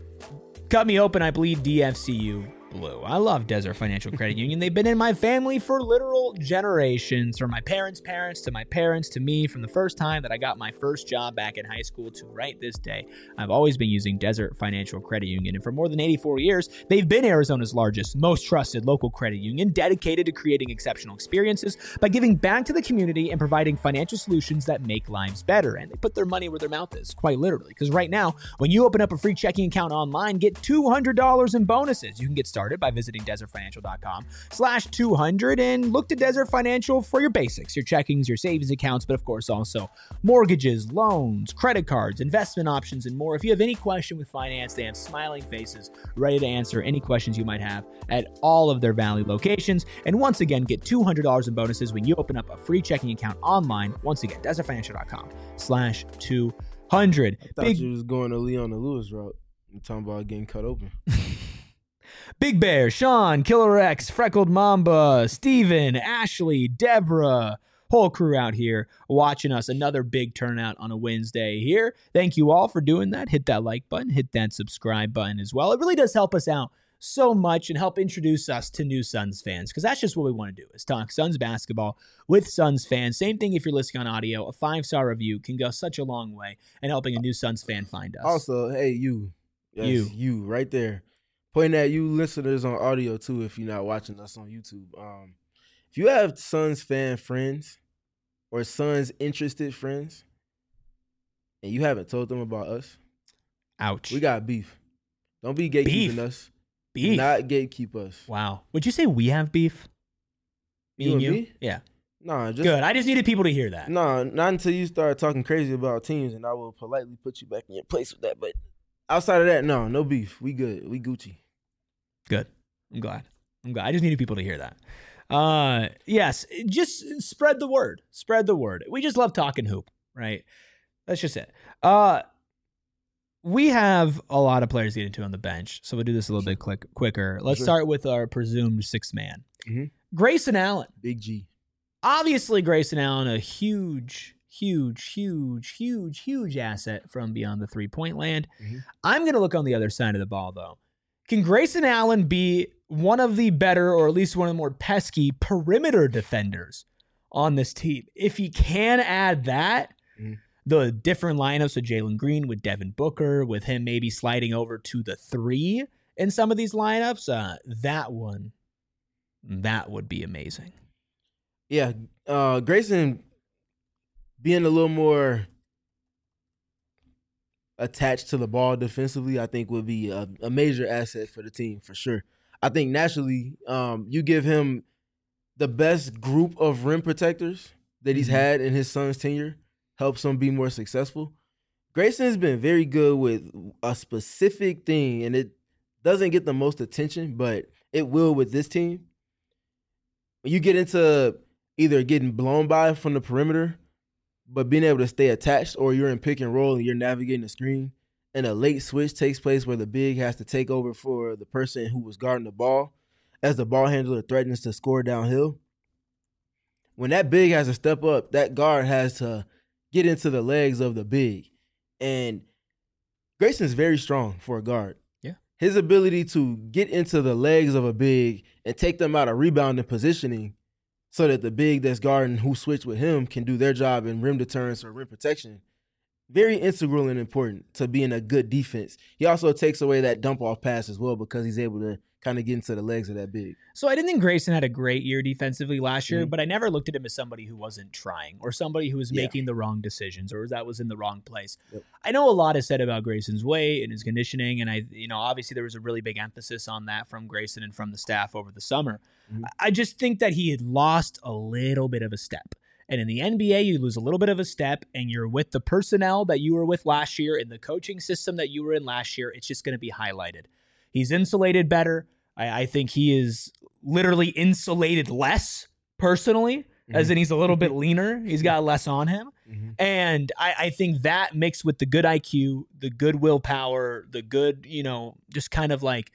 Cut me open, I bleed D F C U blue. I love Desert Financial Credit Union. They've been in my family for literal generations, from my parents' parents to my parents to me, from the first time that I got my first job back in high school to right this day. I've always been using Desert Financial Credit Union, and for more than eighty-four years, they've been Arizona's largest, most trusted local credit union, dedicated to creating exceptional experiences by giving back to the community and providing financial solutions that make lives better. And they put their money where their mouth is, quite literally, because right now, when you open up a free checking account online, get two hundred dollars in bonuses. You can get started by visiting desert financial dot com slash two hundred and look to Desert Financial for your basics, your checkings, your savings accounts, but of course also mortgages, loans, credit cards, investment options, and more. If you have any question with finance, they have smiling faces ready to answer any questions you might have at all of their Valley locations. And once again, get two hundred dollars in bonuses when you open up a free checking account online. Once again, desert financial dot com slash two hundred. I thought Big... you was going to Leona Lewis route. I'm talking about getting cut open. Big Bear, Sean, Killer X, Freckled Mamba, Steven, Ashley, Deborah, whole crew out here watching us. Another big turnout on a Wednesday here. Thank you all for doing that. Hit that like button, hit that subscribe button as well. It really does help us out so much and help introduce us to new Suns fans, because that's just what we want to do, is talk Suns basketball with Suns fans. Same thing if you're listening on audio. A five-star review can go such a long way in helping a new Suns fan find us. Also, hey, you. Yes, you. You, right there. Pointing at you listeners on audio, too, if you're not watching us on YouTube. Um, if you have Suns fan friends or Suns interested friends and you haven't told them about us, ouch. We got beef. Don't be gatekeeping beef. us. Beef. Do not gatekeep us. Wow. Would you say we have beef? Me you and and you? Me? Yeah. Nah, just good. I just needed people to hear that. Nah, not until you start talking crazy about teams, and I will politely put you back in your place with that. But outside of that, no, no beef. We good. We Gucci. Good. I'm glad. I'm glad. I just needed people to hear that. Uh, yes, just spread the word. Spread the word. We just love talking hoop, right? That's just it. Uh, we have a lot of players to get into on the bench, so we'll do this a little Sure. bit quick, quicker. Let's Sure. start with our presumed sixth man. Mhm. Grayson Allen. Big G. Obviously, Grayson Allen, a huge, huge, huge, huge, huge asset from beyond the three-point land. Mhm. I'm going to look on the other side of the ball, though. Can Grayson Allen be one of the better, or at least one of the more pesky perimeter defenders on this team? If he can add that, Mhm. the different lineups with Jalen Green, with Devin Booker, with him maybe sliding over to the three in some of these lineups, uh, that one, that would be amazing. Yeah, uh, Grayson being a little more attached to the ball defensively, I think would be a, a major asset for the team for sure. I think naturally, um, you give him the best group of rim protectors that he's Mhm. had in his son's tenure, helps him be more successful. Grayson's been very good with a specific thing, and it doesn't get the most attention, but it will with this team. When you get into either getting blown by from the perimeter, but being able to stay attached, or you're in pick and roll and you're navigating the screen, and a late switch takes place where the big has to take over for the person who was guarding the ball as the ball handler threatens to score downhill. When that big has to step up, that guard has to get into the legs of the big. And Grayson's very strong for a guard. Yeah. His ability to get into the legs of a big and take them out of rebounding positioning so that the big that's guarding who switched with him can do their job in rim deterrence or rim protection, very integral and important to being a good defense. He also takes away that dump off pass as well because he's able to kind of get into the legs of that big. So I didn't think Grayson had a great year defensively last year, Mhm. but I never looked at him as somebody who wasn't trying or somebody who was Yeah. making the wrong decisions or that was in the wrong place. Yep. I know a lot is said about Grayson's weight and his conditioning, and I, you know, obviously there was a really big emphasis on that from Grayson and from the staff over the summer. Mhm. I just think that he had lost a little bit of a step. And in the N B A, you lose a little bit of a step, and you're with the personnel that you were with last year and the coaching system that you were in last year. It's just going to be highlighted. He's insulated better. I, I think he is literally insulated less personally, as in he's a little bit leaner. He's got less on him. Mm-hmm. And I, I think that mixed with the good I Q, the good willpower, the good, you know, just kind of like,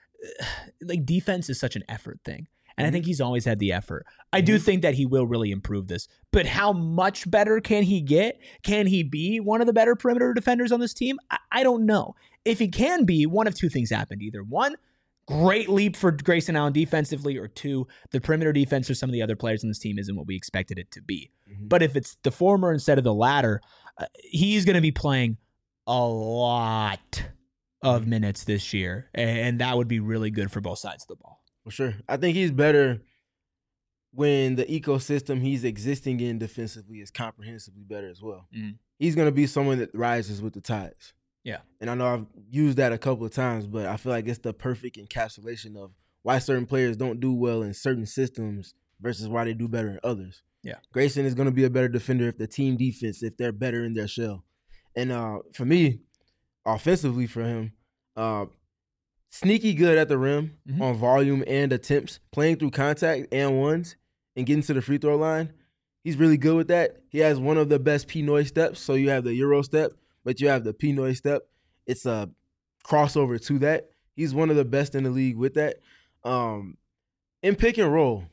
like defense is such an effort thing. And I think he's always had the effort. I do think that he will really improve this. But how much better can he get? Can he be one of the better perimeter defenders on this team? I, I don't know. If he can be, one of two things happened. Either one, great leap for Grayson Allen defensively, or two, the perimeter defense for some of the other players on this team isn't what we expected it to be. Mm-hmm. But if it's the former instead of the latter, uh, he's going to be playing a lot of minutes this year. And that would be really good for both sides of the ball. For sure. I think he's better when the ecosystem he's existing in defensively is comprehensively better as well. Mm. He's going to be someone that rises with the tides. Yeah. And I know I've used that a couple of times, but I feel like it's the perfect encapsulation of why certain players don't do well in certain systems versus why they do better in others. Yeah. Grayson is going to be a better defender if the team defense, if they're better in their shell. And uh, for me, offensively for him, uh, sneaky good at the rim Mhm. on volume and attempts, playing through contact and ones and getting to the free throw line. He's really good with that. He has one of the best Pinoy steps. So you have the Euro step, but you have the Pinoy step. It's a crossover to that. He's one of the best in the league with that. Um, in pick and roll,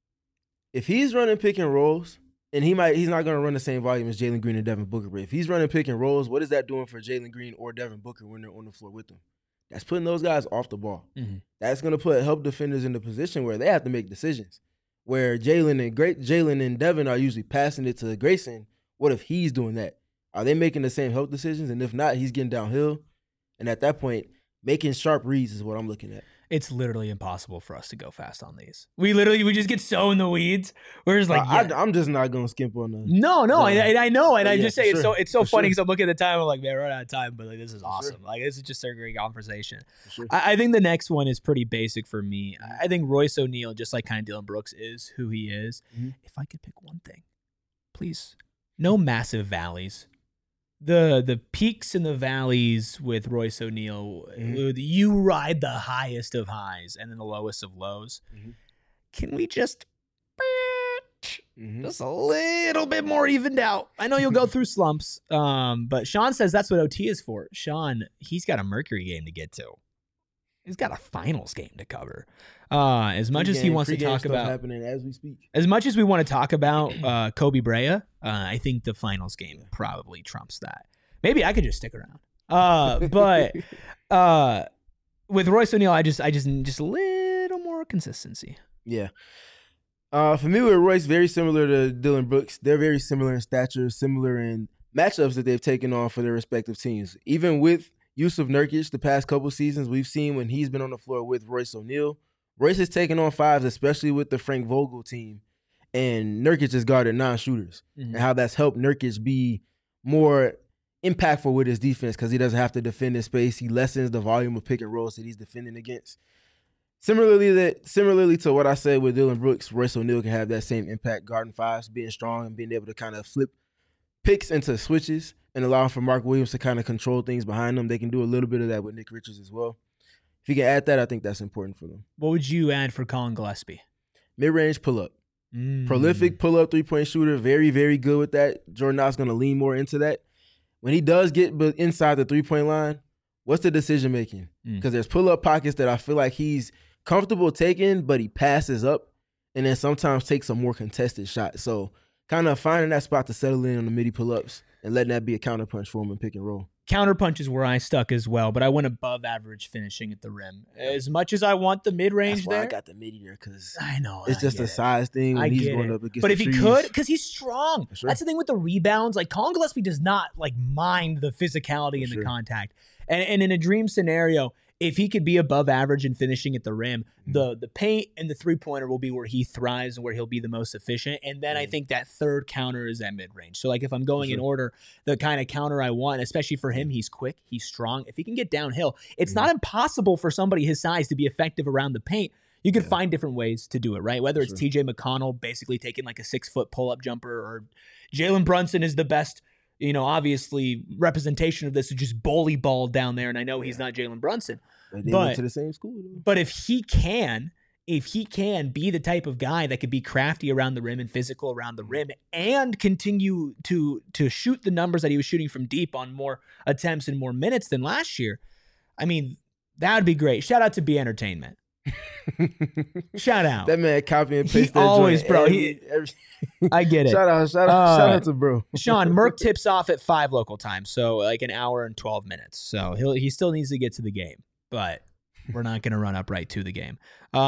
if he's running pick and rolls, and he might, he's not going to run the same volume as Jalen Green and Devin Booker, but if he's running pick and rolls, what is that doing for Jalen Green or Devin Booker when they're on the floor with them? That's putting those guys off the ball. Mm-hmm. That's going to put help defenders in the position where they have to make decisions. Where Jalen and great Jalen and Devin are usually passing it to Grayson. What if he's doing that? Are they making the same help decisions? And if not, he's getting downhill. And at that point, making sharp reads is what I'm looking at. It's literally impossible for us to go fast on these. We literally, we just get so in the weeds. We're just like, I, yeah. I, I'm just not going to skimp on the. No, no, Yeah. I, I know, and But I yeah, just for say it's sure. so it's so For funny sure. because I'm looking at the time, I'm like, man, we're out of time, but like this is For awesome. sure. Like this is just a great conversation. For sure. I, I think the next one is pretty basic for me. I think Royce O'Neal, just like kind of Dylan Brooks, is who he is. Mhm. If I could pick one thing, please, no massive valleys. The the peaks and the valleys with Royce O'Neal, Mhm. uh, you ride the highest of highs and then the lowest of lows. Mhm. Can we just Mhm. just a little bit more evened out. I know you'll go through slumps, um, but Sean says that's what O T is for. Sean, he's got a Mercury game to get to. He's got a finals game to cover. Uh, as much as he Pre-game- wants to pre-game talk stuff about, happening as we speak. as much as we want to talk about uh, Kobe Brea, uh, I think the finals game probably trumps that. Maybe I could just stick around. Uh, but uh, with Royce O'Neal, I just, I just, just a little more consistency. Yeah. Uh, for me with Royce, very similar to Dylan Brooks. They're very similar in stature, similar in matchups that they've taken on for their respective teams. Even with Yusuf Nurkic, the past couple seasons, we've seen when he's been on the floor with Royce O'Neal, Royce has taken on fives, especially with the Frank Vogel team, and Nurkic has guarded non-shooters, Mm-hmm. and how that's helped Nurkic be more impactful with his defense because he doesn't have to defend in space. He lessens the volume of pick and rolls that he's defending against. Similarly, that similarly to what I said with Dylan Brooks, Royce O'Neal can have that same impact guarding fives, being strong and being able to kind of flip picks into switches and allow for Mark Williams to kind of control things behind them. They can do a little bit of that with Nick Richards as well. If you can add that, I think that's important for them. What would you add for Colin Gillespie? Mid-range pull-up. Mm. Prolific pull-up three-point shooter. Very, very good with that. Jordan Knox going to lean more into that. When he does get inside the three-point line, what's the decision-making? Because Mm. there's pull-up pockets that I feel like he's comfortable taking, but he passes up and then sometimes takes a more contested shot. So kind of finding that spot to settle in on the midi pull-ups and letting that be a counterpunch for him and pick and roll. Counterpunch is where I stuck as well, but I went above average finishing at the rim. As much as I want the mid-range That's why there. I got the midi there because I know. it's I just get a it. size thing when I he's get going it. up against But the if he trees. could, because he's strong. For sure. That's the thing with the rebounds. Like Colin Gillespie does not like mind the physicality For and the sure. contact. And, and in a dream scenario, if he could be above average in finishing at the rim, Mhm. the the paint and the three pointer will be where he thrives and where he'll be the most efficient. And then I Mhm. think that third counter is at mid range. So like if I'm going in sure. order, the kind of counter I want, especially for him, he's quick, he's strong. If he can get downhill, it's Mhm. not impossible for somebody his size to be effective around the paint. You could Yeah. find different ways to do it, right? Whether it's Sure. T J McConnell basically taking like a six foot pull up jumper, or Jalen Brunson is the best, you know, obviously representation of this, is just bully ball down there. And I know he's Yeah. not Jalen Brunson, But they but- went to the same school. Though. but if he can, if he can be the type of guy that could be crafty around the rim and physical around the rim and continue to to shoot the numbers that he was shooting from deep on more attempts and more minutes than last year, I mean, that would be great. Shout out to B Entertainment. Shout out. That man copy and He paste that always, joint bro, every- he- every- I get it. shout out, shout out, Uh, shout out to bro. Sean, Merck tips off at five local time, so like an hour and twelve minutes. So he'll he still needs to get to the game, but we're not going to run up right to the game.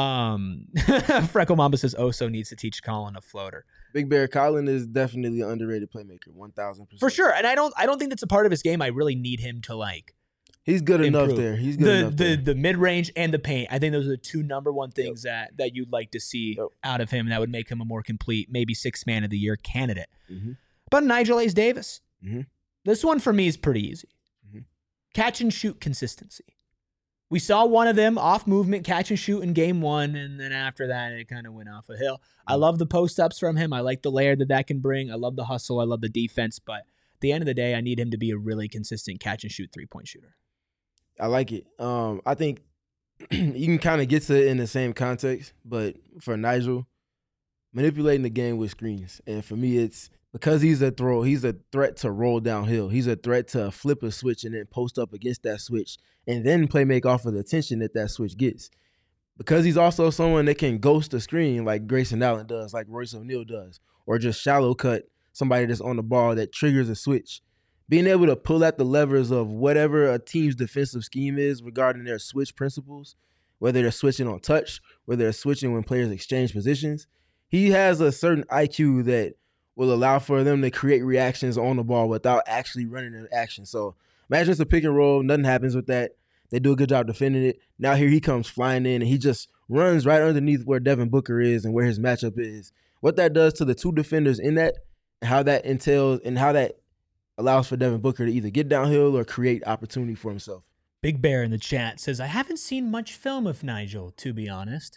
Um, Freckle Mamba says Oso needs to teach Colin a floater Big Bear Colin is definitely an underrated playmaker, one thousand percent for sure. And I don't I don't think that's a part of his game. I really need him to like He's good enough improve. there. He's good the enough the there. the mid range and the paint. I think those are the two number one things that that you'd like to see Yep. out of him that would make him a more complete, maybe six man of the year candidate. Mhm. But Nigel Ace Davis, Mhm. this one for me is pretty easy. Mhm. Catch and shoot consistency. We saw one of them off movement catch and shoot in game one, and then after that it kind of went off a hill. I love the post ups from him. I like the layer that that can bring. I love the hustle. I love the defense. But at the end of the day, I need him to be a really consistent catch and shoot three point shooter. I like it. Um, I think you can kind of get to it in the same context, but for Nigel, manipulating the game with screens, and for me, it's because he's a throw. He's a threat to roll downhill. He's a threat to flip a switch and then post up against that switch, and then play make off of the attention that that switch gets. Because he's also someone that can ghost a screen like Grayson Allen does, like Royce O'Neal does, or just shallow cut somebody that's on the ball that triggers a switch. Being able to pull at the levers of whatever a team's defensive scheme is regarding their switch principles, whether they're switching on touch, whether they're switching when players exchange positions, he has a certain I Q that will allow for them to create reactions on the ball without actually running an action. So imagine it's a pick and roll, nothing happens with that. They do a good job defending it. Now here he comes flying in, and he just runs right underneath where Devin Booker is and where his matchup is. What that does to the two defenders in that, and how that entails, and how that allows for Devin Booker to either get downhill or create opportunity for himself. Big Bear in the chat says, I haven't seen much film of Nigel, to be honest.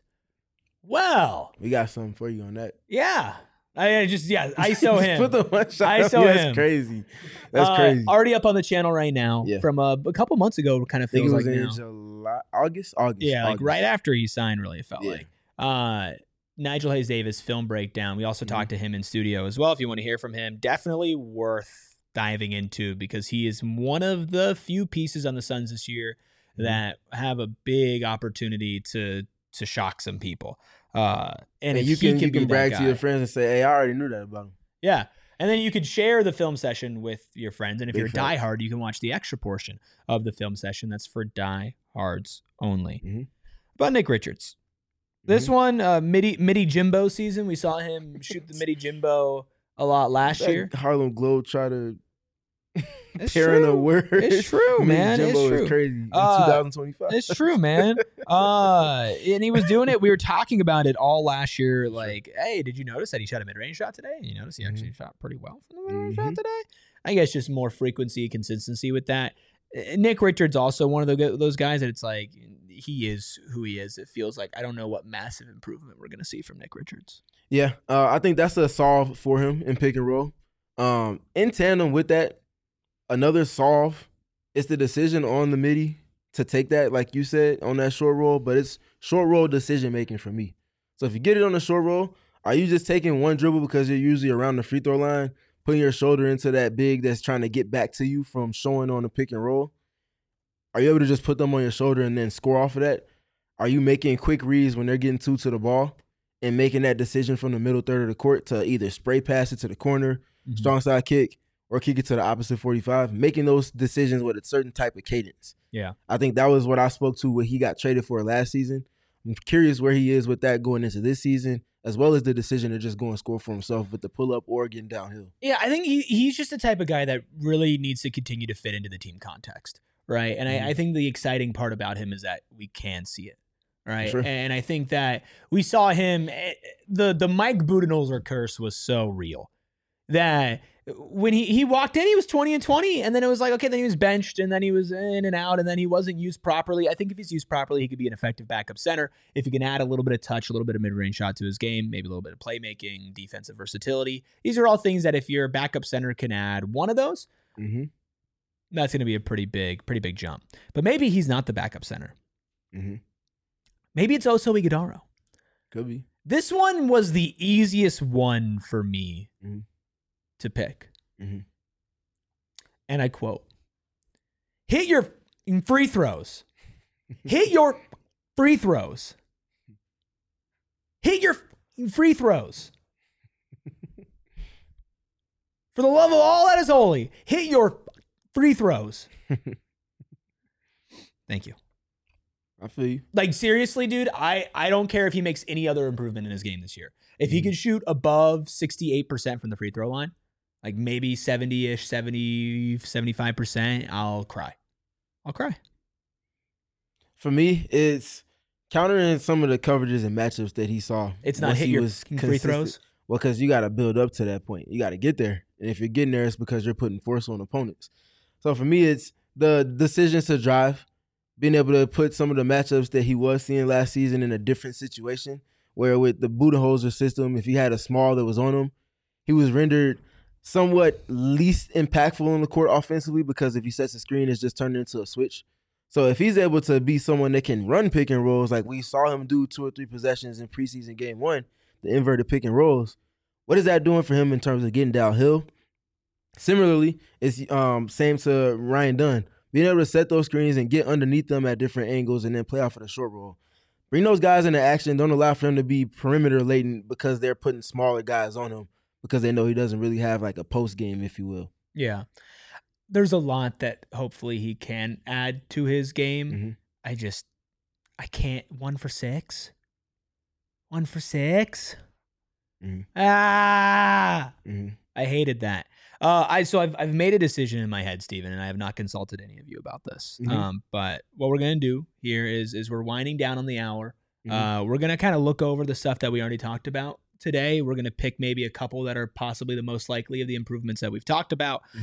Well, We got something for you on that. yeah. I I just, yeah, I saw him. Put the one shot. I up. saw Yeah, him. That's crazy. That's Uh, crazy. Already up on the channel right now. Yeah. From a, a couple months ago, it kind of I think feels it was like in now. July, August, August. Yeah, like August. right after he signed, really, it felt Yeah. like. Uh, Nigel Hayes Davis film breakdown. We also mm-hmm. talked to him in studio as well. If you want to hear from him, definitely worth diving into because he is one of the few pieces on the Suns this year mm-hmm. that have a big opportunity to to shock some people. Uh, and, and if you he can, can you can brag guy, to your friends and say, "Hey, I already knew that about him." Yeah. And then you could share the film session with your friends. And if Big you're a fact. diehard, you can watch the extra portion of the film session. That's for diehards only. Mm-hmm. But Nick Richards. This mm-hmm. one, uh, Midi, Midi Jimbo season, we saw him shoot the Midi Jimbo a lot last that year. Harlem Globe try to It's pair in true. a word. It's true, Midi man. Jimbo It's true. is crazy in Uh, twenty twenty-five. It's true, man. Uh, and he was doing it. We were talking about it all last year. Like, hey, did you notice that he shot a mid-range shot today? And you notice he actually mm-hmm. shot pretty well from the mid-range mm-hmm. shot today. I guess just more frequency, consistency with that. Nick Richards also one of the, those guys that it's like he is who he is. It feels like I don't know what massive improvement we're going to see from Nick Richards. Yeah, uh, I think that's a solve for him in pick and roll. Um, in tandem with that, another solve is the decision on the midi to take that, like you said, on that short roll, but it's short roll decision making for me. So if you get it on the short roll, are you just taking one dribble because you're usually around the free throw line, putting your shoulder into that big that's trying to get back to you from showing on the pick and roll? Are you able to just put them on your shoulder and then score off of that? Are you making quick reads when they're getting two to the ball and making that decision from the middle third of the court to either spray pass it to the corner, mm-hmm. strong side kick, or kick it to the opposite forty-five, making those decisions with a certain type of cadence. Yeah. I think that was what I spoke to what he got traded for last season. I'm curious where he is with that going into this season, as well as the decision to just go and score for himself with the pull-up or getting downhill. Yeah, I think he he's just the type of guy that really needs to continue to fit into the team context, right? And mm-hmm. I, I think the exciting part about him is that we can see it, right? Sure. And I think that we saw him, the, the Mike Budenholzer curse was so real that when he, he walked in, he was twenty and twenty, and then it was like, okay, then he was benched, and then he was in and out, and then he wasn't used properly. I think if he's used properly, he could be an effective backup center. If he can add a little bit of touch, a little bit of mid-range shot to his game, maybe a little bit of playmaking, defensive versatility. These are all things that if your backup center can add one of those, mm-hmm. that's going to be a pretty big, pretty big jump. But maybe he's not the backup center. Mm-hmm. Maybe it's Oso Ighodaro. Could be. This one was the easiest one for me mm-hmm. to pick. Mm-hmm. And I quote, hit your free throws. Hit your free throws. Hit your free throws. For the love of all that is holy, hit your free throws. Thank you. I feel you. Like, seriously, dude, I, I don't care if he makes any other improvement in his game this year. If he mm-hmm. can shoot above sixty-eight percent from the free throw line, like maybe seventy-ish, seventy, seventy-five percent, I'll cry. I'll cry. For me, it's countering some of the coverages and matchups that he saw. It's not hit your free throws? Well, because you got to build up to that point. You got to get there. And if you're getting there, it's because you're putting force on opponents. So for me, it's the decisions to drive, being able to put some of the matchups that he was seeing last season in a different situation, where with the Budenholzer system, if he had a small that was on him, he was rendered somewhat least impactful on the court offensively because if he sets a screen, it's just turned into a switch. So if he's able to be someone that can run pick and rolls like we saw him do two or three possessions in preseason game one, the inverted pick and rolls, what is that doing for him in terms of getting downhill? Similarly, it's um, same to Ryan Dunn. Being able to set those screens and get underneath them at different angles and then play off of the short roll. Bring those guys into action. Don't allow for them to be perimeter latent because they're putting smaller guys on him because they know he doesn't really have like a post game, if you will. Yeah. There's a lot that hopefully he can add to his game. Mm-hmm. I just, I can't. One for six. One for six. Mm-hmm. Ah, mm-hmm. I hated that. Uh, I so I've I've made a decision in my head, Steven, and I have not consulted any of you about this. Mm-hmm. Um, but what we're gonna do here is is we're winding down on the hour. Mm-hmm. Uh, we're gonna kind of look over the stuff that we already talked about today. We're gonna pick maybe a couple that are possibly the most likely of the improvements that we've talked about. Mm-hmm.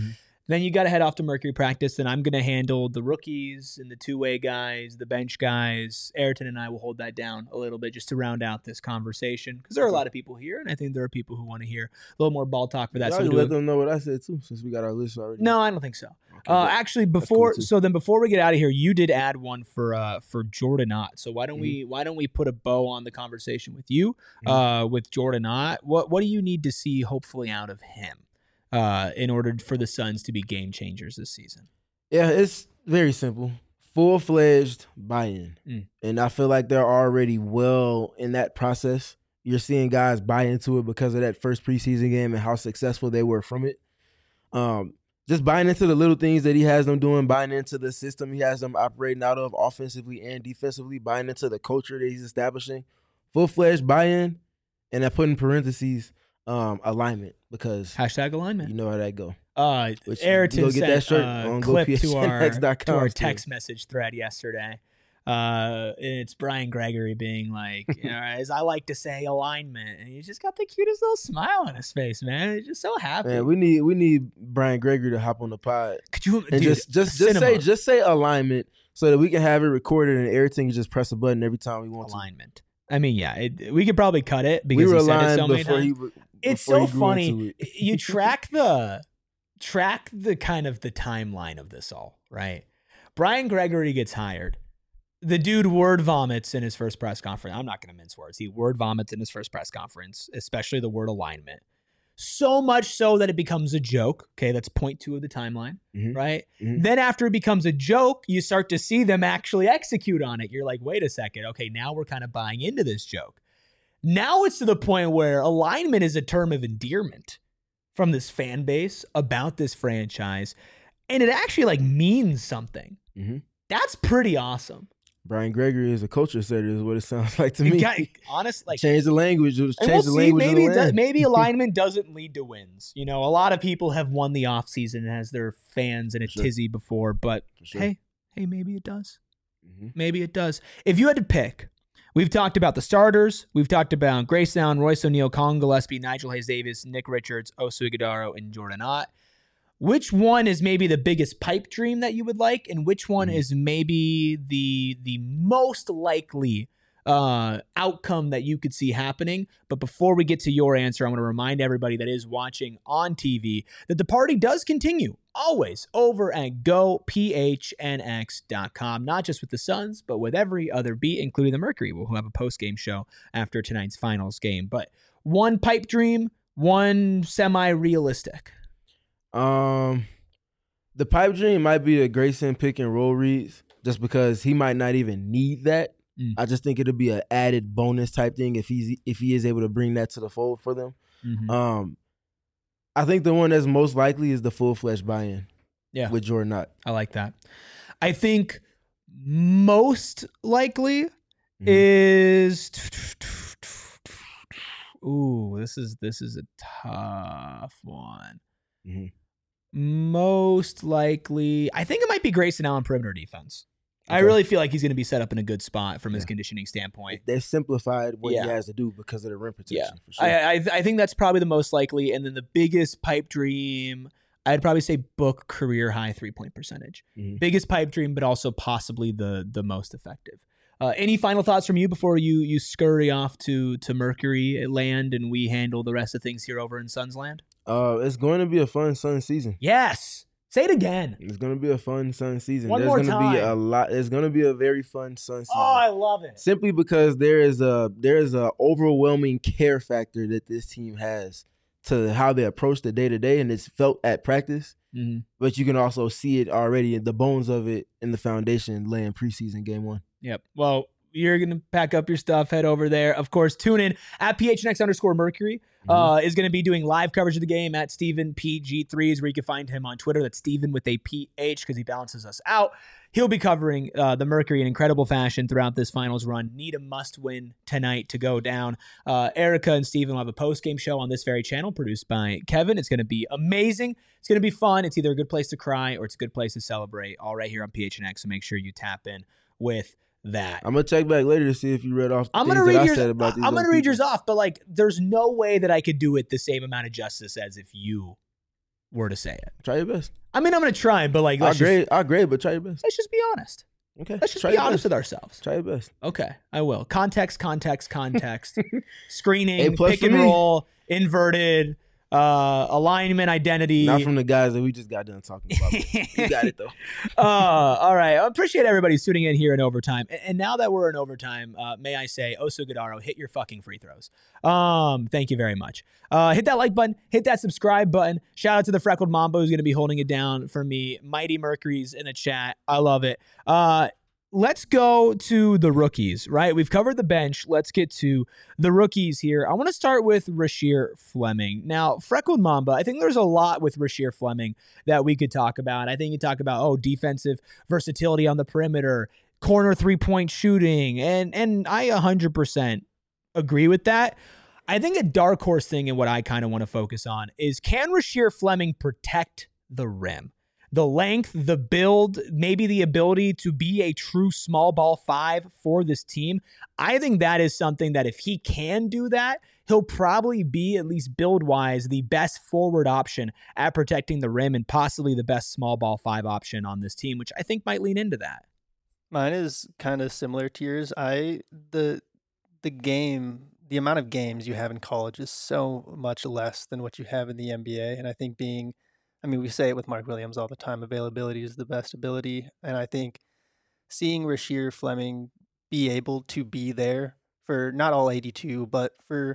Then you got to head off to Mercury practice. Then I'm going to handle the rookies and the two-way guys, the bench guys. Ayrton and I will hold that down a little bit just to round out this conversation because there are a lot of people here, and I think there are people who want to hear a little more ball talk for that. Y'all So we'll let do a- them know what I said too, since we got our list already. no, I don't think so. Okay, Uh, good. actually, cool, before too. so then before we get out of here, you did add one for uh for Jordan Ott. So why don't Mm-hmm. we why don't we put a bow on the conversation with you, Mhm. uh, with Jordan Ott? What what do you need to see hopefully out of him, uh, in order for the Suns to be game changers this season? Yeah, it's very simple. Full-fledged buy-in. Mm. And I feel like they're already well in that process. You're seeing guys buy into it because of that first preseason game and how successful they were from it. Um, just buying into the little things that he has them doing, buying into the system he has them operating out of offensively and defensively, buying into the culture that he's establishing. Full-fledged buy-in, and I put in parentheses um, alignment because Hashtag alignment. you know how that go. Uh, Which you Ayrton go get sent that shirt a on clip go to P H N our, X dot com to our still. text message thread yesterday. Uh, it's Brian Gregory being like, you know, as I like to say, alignment, and he's just got the cutest little smile on his face, man. He's just so happy. Man, we need we need Brian Gregory to hop on the pod Could you and dude, just just just cinema say just say alignment so that we can have it recorded and everything. You just press a button every time we want alignment? I mean, yeah, it, we could probably cut it to. because We were he said it aligned so many before times. he. w- It's before so he grew funny. into it. You track the track the kind of the timeline of this all, right? Brian Gregory gets hired. The dude word vomits in his first press conference. I'm not going to mince words. He word vomits in his first press conference, especially the word alignment. So much so that it becomes a joke. Okay, that's point two of the timeline, Mhm. right? Mhm. Then after it becomes a joke, you start to see them actually execute on it. You're like, wait a second. Okay, now we're kind of buying into this joke. Now it's to the point where alignment is a term of endearment from this fan base about this franchise, and it actually like means something. Mhm. That's pretty awesome. Brian Gregory is a culture setter, is what it sounds like to It me. got- honest, like, change the language. Just and change we'll the see. language. Maybe of it the does, land. maybe alignment doesn't lead to wins. You know, a lot of people have won the offseason and has their fans in a Sure. tizzy before, but For sure. hey, hey, maybe it does. Mhm. Maybe it does. If you had to pick, we've talked about the starters. We've talked about Grace Allen, Royce O'Neal, Colin Gillespie, Nigel Hayes Davis, Nick Richards, Osu Ighodaro, and Jordan Ott. Which one is maybe the biggest pipe dream that you would like, and which one Mhm. is maybe the the most likely uh, outcome that you could see happening? But before we get to your answer, I want to remind everybody that is watching on T V that the party does continue always over at go P H N X dot com, not just with the Suns, but with every other beat, including the Mercury. We'll have a post-game show after tonight's finals game. But one pipe dream, one semi-realistic. Um, the pipe dream might be the Grayson pick and roll reads, just because he might not even need that. Mm. I just think it'll be an added bonus type thing if he's if he is able to bring that to the fold for them. Mm-hmm. Um, I think the one that's most likely is the full fledged buy-in. Yeah. with Jordan Ott. I like that. I think most likely Mhm. is ooh, this is this is a tough one. Mhm. Most likely, I think it might be Grayson Allen perimeter defense. I Okay. really feel like he's going to be set up in a good spot from his Yeah. conditioning standpoint. They simplified what Yeah. he has to do because of the rim protection. Yeah. for sure. I, I I think that's probably the most likely, and then the biggest pipe dream, I'd probably say book career high three point percentage. Mhm. Biggest pipe dream, but also possibly the the most effective. Uh, any final thoughts from you before you you scurry off to to Mercury land and we handle the rest of things here over in Suns land? Uh, it's going to be a fun Sun season. Yes. Say it again. It's going to be a fun Sun season. One There's more going to be time. a lot. There's going to be a very fun Sun season. Oh, I love it. Simply because there is a there is a overwhelming care factor that this team has to how they approach the day to day, and it's felt at practice. Mm-hmm. But you can also see it already in the bones of it in the foundation laying preseason game one. Yep. Well, you're going to pack up your stuff, head over there. Of course, tune in at P H N X underscore Mercury. Uh, is going to be doing live coverage of the game at Stephen P G three is where you can find him on Twitter. That's Stephen with a P H because he balances us out. He'll be covering uh, the Mercury in incredible fashion throughout this finals run. Need a must win tonight to go down. Uh, Erica and Stephen will have a post game show on this very channel produced by Kevin. It's going to be amazing. It's going to be fun. It's either a good place to cry or it's a good place to celebrate. All right here on P H N X. So make sure you tap in with that. I'm gonna check back later to see if you read off. The I'm gonna things read that I yours. said about these I'm gonna other read yours people. off, but like, there's no way that I could do it the same amount of justice as if you were to say it. Try your best. I mean, I'm going to try, but like, I let's agree. just, I agree, but try your best. let's just be honest. Okay. Let's just try be your honest best. with ourselves. Try your best. Okay, I will. Context, context, context. Screening, A plus pick for and me. roll, inverted, uh, alignment, identity. Not from the guys that we just got done talking about. You got it, though. uh, all right. I appreciate everybody tuning in here in overtime. And, and now that we're in overtime, uh, may I say, Oso Gadaro, hit your fucking free throws. Um, thank you very much. Uh, hit that like button. Hit that subscribe button. Shout out to the Freckled Mamba who's going to be holding it down for me. Mighty Mercury's in the chat. I love it. Uh, Let's go to the rookies, right? We've covered the bench. Let's get to the rookies here. I want to start with Rasheer Fleming. Now, Freckled Mamba, I think there's a lot with Rasheer Fleming that we could talk about. I think you talk about, oh, defensive versatility on the perimeter, corner three-point shooting, and and I one hundred percent agree with that. I think a dark horse thing and what I kind of want to focus on is, can Rasheer Fleming protect the rim? The length, the build, maybe the ability to be a true small ball five for this team. I think that is something that if he can do that, he'll probably be, at least build-wise, the best forward option at protecting the rim and possibly the best small ball five option on this team, which I think might lean into that. Mine is kind of similar to yours. I the the game, the amount of games you have in college is so much less than what you have in the N B A, and I think being I mean, we say it with Mark Williams all the time, availability is the best ability. And I think seeing Rasheer Fleming be able to be there for not all eighty-two, but for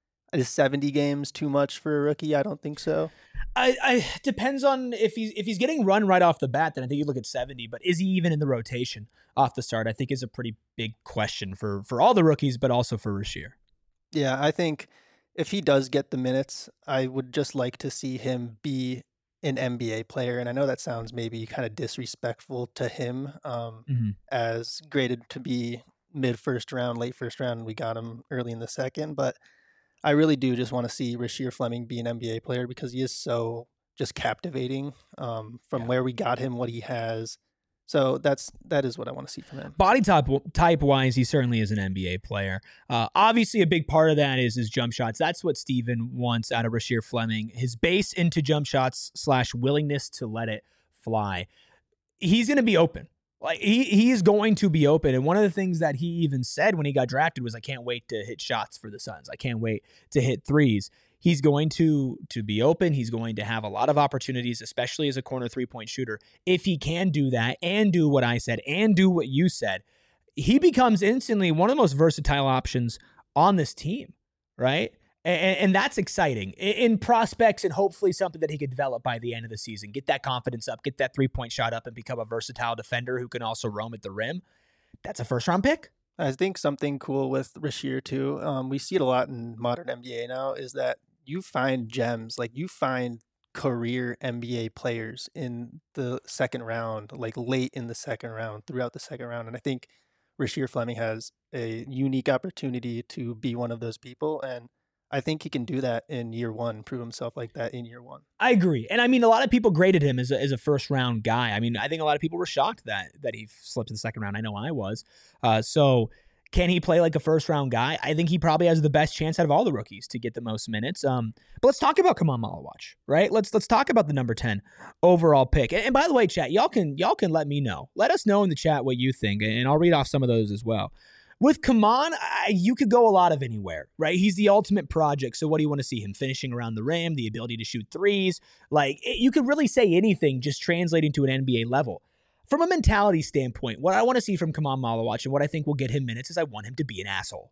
is seventy games too much for a rookie? I don't think so. I, I depends on if he's if he's getting run right off the bat, then I think you look at seventy. But is he even in the rotation off the start? I think is a pretty big question for for all the rookies, but also for Rasheer. Yeah, I think if he does get the minutes, I would just like to see him be an N B A player. And I know that sounds maybe kind of disrespectful to him, um, Mm-hmm. as graded to be mid first round, late first round. We got him early in the second, but I really do just want to see Rasheer Fleming be an N B A player because he is so just captivating, um, from Yeah. where we got him, what he has. So that's that is what I want to see from him. Body type type wise, he certainly is an N B A player. Uh, obviously, a big part of that is his jump shots. That's what Steven wants out of Rasheer Fleming. His base into jump shots slash willingness to let it fly. He's going to be open. Like he he is going to be open. And one of the things that he even said when he got drafted was, "I can't wait to hit shots for the Suns. I can't wait to hit threes." He's going to to be open. He's going to have a lot of opportunities, especially as a corner three-point shooter. If he can do that and do what I said and do what you said, he becomes instantly one of the most versatile options on this team, right? And, and that's exciting in prospects and hopefully something that he could develop by the end of the season. Get that confidence up, get that three-point shot up, and become a versatile defender who can also roam at the rim. That's a first-round pick. I think something cool with Rasheer too, um, we see it a lot in modern N B A now, is that you find gems, like you find career N B A players in the second round, like late in the second round, throughout the second round. And I think Rasheer Fleming has a unique opportunity to be one of those people. And I think he can do that in year one, prove himself like that in year one. I agree. And I mean, a lot of people graded him as a, as a first round guy. I mean, I think a lot of people were shocked that that he slipped to the second round. I know I was. Uh, so can he play like a first round guy? I think he probably has the best chance out of all the rookies to get the most minutes. Um, but let's talk about Kaman Malawach, right? Let's let's talk about the number ten overall pick. And, and by the way, chat, y'all can y'all can let me know. Let us know in the chat what you think, and I'll read off some of those as well. With Kaman, I, you could go a lot of anywhere, right? He's the ultimate project. So what do you want to see? Him finishing around the rim, the ability to shoot threes. Like, it, you could really say anything just translating to an N B A level. From a mentality standpoint, what I want to see from Kaman Malawach and what I think will get him minutes is I want him to be an asshole.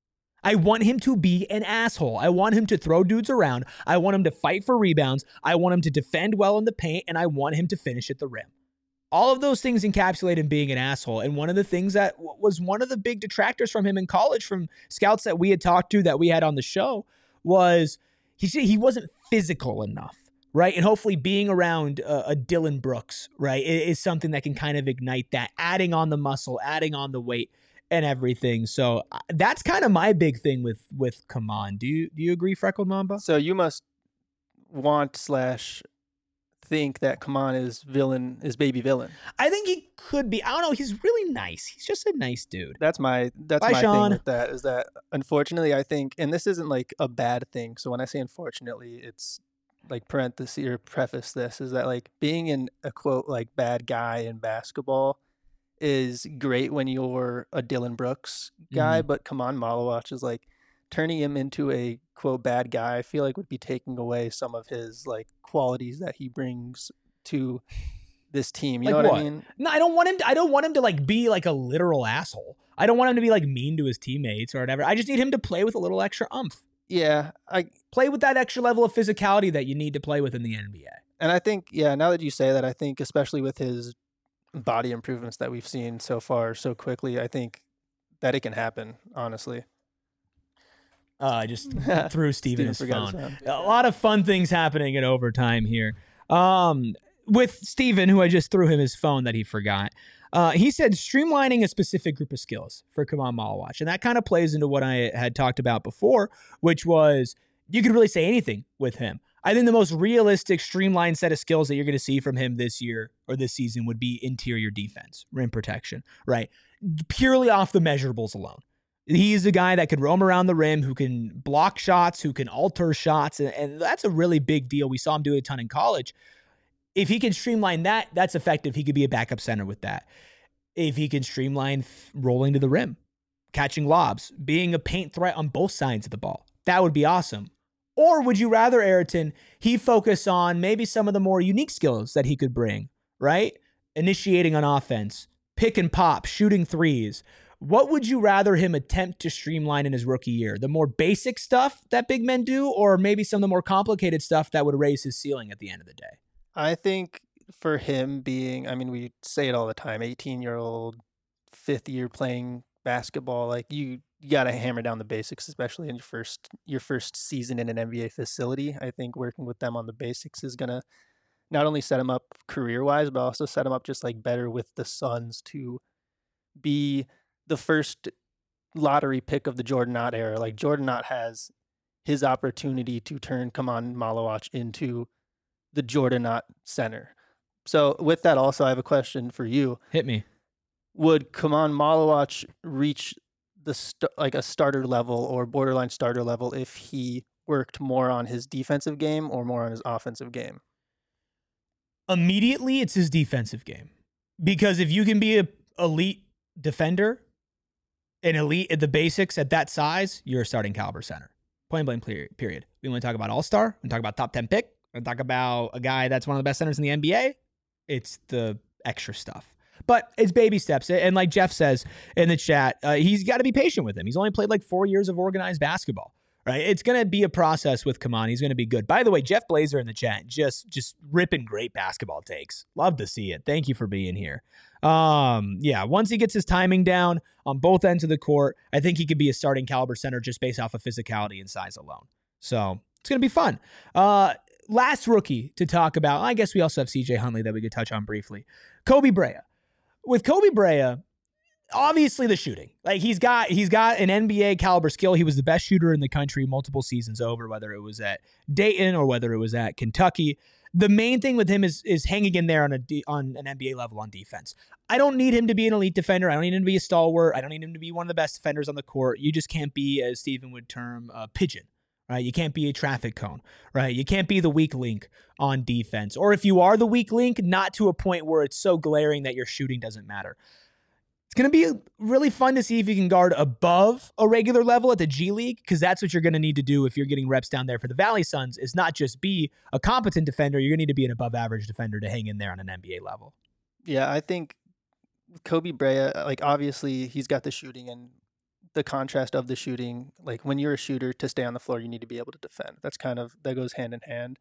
I want him to be an asshole. I want him to throw dudes around. I want him to fight for rebounds. I want him to defend well in the paint, and I want him to finish at the rim. All of those things encapsulate him being an asshole. And one of the things that w- was one of the big detractors from him in college, from scouts that we had talked to, that we had on the show, was he he wasn't physical enough, right? And hopefully being around uh, a Dylan Brooks, right, is, is something that can kind of ignite that, adding on the muscle, adding on the weight and everything. So uh, that's kind of my big thing with with Kaman. Do you do you agree, Freckled Mamba? So you must want slash think that Kaman is villain is baby villain. I think he could be. I don't know. He's really nice. He's just a nice dude. That's my that's Bye, my Sean. thing with that, is that unfortunately I think, and this isn't like a bad thing. So when I say unfortunately, it's like parenthesis or preface this is that like being in a quote like bad guy in basketball is great when you're a Dylan Brooks guy, Mhm. but Kaman Malawach is like turning him into a quote bad guy. I feel like would be taking away some of his like qualities that he brings to this team. You Like know what, what? I mean? No, I don't want him to, I don't want him to like be like a literal asshole. I don't want him to be like mean to his teammates or whatever. I just need him to play with a little extra umph. Yeah, I Play with that extra level of physicality that you need to play with in the N B A. and I think yeah, now that you say that, I think especially with his body improvements that we've seen so far so quickly, I think that it can happen, honestly. Uh, I just threw Steven his forgot phone. his phone. A lot of fun things happening in overtime here. Um, with Steven, who I just threw him his phone that he forgot. Uh, he said streamlining a specific group of skills for Kaman Malawach. And that kind of plays into what I had talked about before, which was you could really say anything with him. I think the most realistic, streamlined set of skills that you're going to see from him this year or this season would be interior defense, rim protection, right? Purely off the measurables alone. He's a guy that could roam around the rim, who can block shots, who can alter shots, and, and that's a really big deal. We saw him do it a ton in college. If he can streamline that, that's effective. He could be a backup center with that. If he can streamline f- rolling to the rim, catching lobs, being a paint threat on both sides of the ball, that would be awesome. Or would you rather, Ayrton, he focus on maybe some of the more unique skills that he could bring, right? Initiating on offense, pick and pop, shooting threes. What would you rather him attempt to streamline in his rookie year? The more basic stuff that big men do, or maybe some of the more complicated stuff that would raise his ceiling at the end of the day? I think for him being, I mean, we say it all the time, eighteen-year-old, fifth year playing basketball, like you, you got to hammer down the basics, especially in your first your first season in an N B A facility. I think working with them on the basics is going to not only set him up career-wise, but also set him up just like better with the Suns to be the first lottery pick of the Jordan Knott era. Like Jordan Knott has his opportunity to turn Kaman Malawach into the Jordan Knott center. So with that, also, I have a question for you. Hit me. Would Kaman Malawach reach the st- like a starter level or borderline starter level if he worked more on his defensive game or more on his offensive game? Immediately, it's his defensive game. Because if you can be an elite defender, an elite at the basics at that size, you're a starting caliber center. Plain blank period. We want to talk about all-star. We talk about top ten pick. We talk about a guy that's one of the best centers in the N B A. It's the extra stuff. But it's baby steps. And like Jeff says in the chat, uh, he's got to be patient with him. He's only played like four years of organized basketball, right? It's going to be a process with Kaman. He's going to be good. By the way, Jeff Blazer in the chat, just just ripping great basketball takes. Love to see it. Thank you for being here. Um, yeah, once he gets his timing down on both ends of the court, I think he could be a starting caliber center just based off of physicality and size alone. So it's going to be fun. Uh, last rookie to talk about, I guess we also have C J Huntley that we could touch on briefly. Kobe Brea. With Kobe Brea, obviously the shooting. Like he's got he's got an N B A caliber skill. He was the best shooter in the country multiple seasons over, whether it was at Dayton or whether it was at Kentucky. The main thing with him is is hanging in there on a on an N B A level on defense. I don't need him to be an elite defender. I don't need him to be a stalwart. I don't need him to be one of the best defenders on the court. You just can't be, as Stephen would term, a pigeon. Right? You can't be a traffic cone, right? You can't be the weak link on defense. Or if you are the weak link, not to a point where it's so glaring that your shooting doesn't matter. It's going to be really fun to see if you can guard above a regular level at the G League, because that's what you're going to need to do if you're getting reps down there for the Valley Suns, is not just be a competent defender. You're going to need to be an above average defender to hang in there on an N B A level. Yeah, I think Kobe Brea, like obviously he's got the shooting and the contrast of the shooting. Like when you're a shooter, to stay on the floor, you need to be able to defend. That's kind of, that goes hand in hand.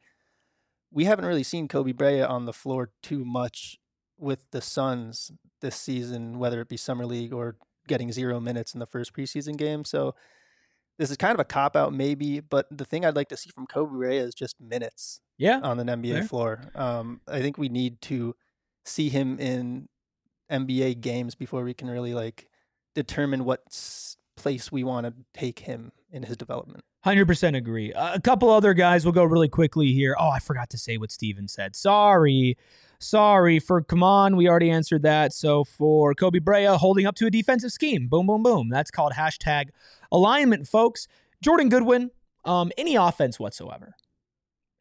We haven't really seen Kobe Brea on the floor too much with the Suns this season, whether it be Summer League or getting zero minutes in the first preseason game. So this is kind of a cop-out maybe, but the thing I'd like to see from Kobe Brea is just minutes yeah, on an N B A fair. floor. Um, I think we need to see him in N B A games before we can really like determine what s- place we want to take him in his development. one hundred percent agree. Uh, a couple other guys, we'll go really quickly here. Oh, I forgot to say what Steven said. Sorry. Sorry. For Kaman, we already answered that. So for Kobe Brea, holding up to a defensive scheme. Boom, boom, boom. That's called hashtag alignment, folks. Jordan Goodwin, um, any offense whatsoever.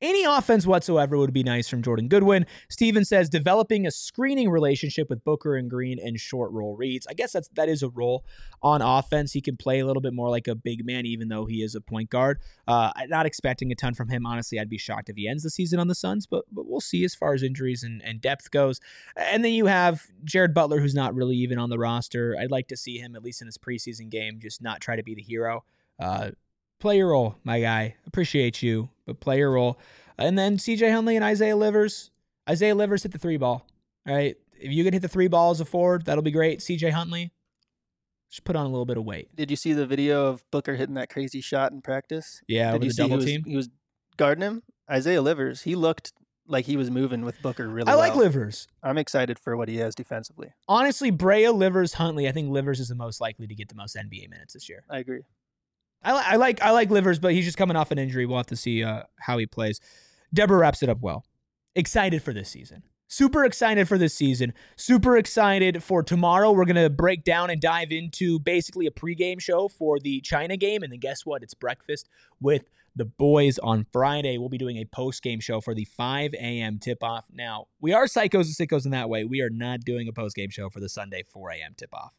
Any offense whatsoever would be nice from Jordan Goodwin. Steven says developing a screening relationship with Booker and Green and short roll reads. I guess that's that is a role on offense. He can play a little bit more like a big man, even though he is a point guard. Uh, I'm not expecting a ton from him. Honestly, I'd be shocked if he ends the season on the Suns, but but we'll see as far as injuries and, and depth goes. And then you have Jared Butler, who's not really even on the roster. I'd like to see him, at least in his preseason game, just not try to be the hero. Uh, play your role, my guy. Appreciate you, but play your role. And then C J Huntley and Isaiah Livers. Isaiah Livers hit the three ball. All right. If you can hit the three ball as a forward, that'll be great. C J Huntley, just put on a little bit of weight. Did you see the video of Booker hitting that crazy shot in practice? Yeah, Did with you the see double he was, team. He was guarding him. Isaiah Livers, he looked like he was moving with Booker really I like well. Livers. I'm excited for what he has defensively. Honestly, Brea, Livers, Huntley, I think Livers is the most likely to get the most N B A minutes this year. I agree. I, li- I like I like Livers, but he's just coming off an injury. We'll have to see uh, how he plays. Deborah wraps it up well. Excited for this season. Super excited for this season. Super excited for tomorrow. We're going to break down and dive into basically a pregame show for the China game. And then guess what? It's breakfast with the boys on Friday. We'll be doing a postgame show for the five a.m. tip-off. Now, we are psychos and sickos in that way. We are not doing a postgame show for the Sunday four a.m. tip-off.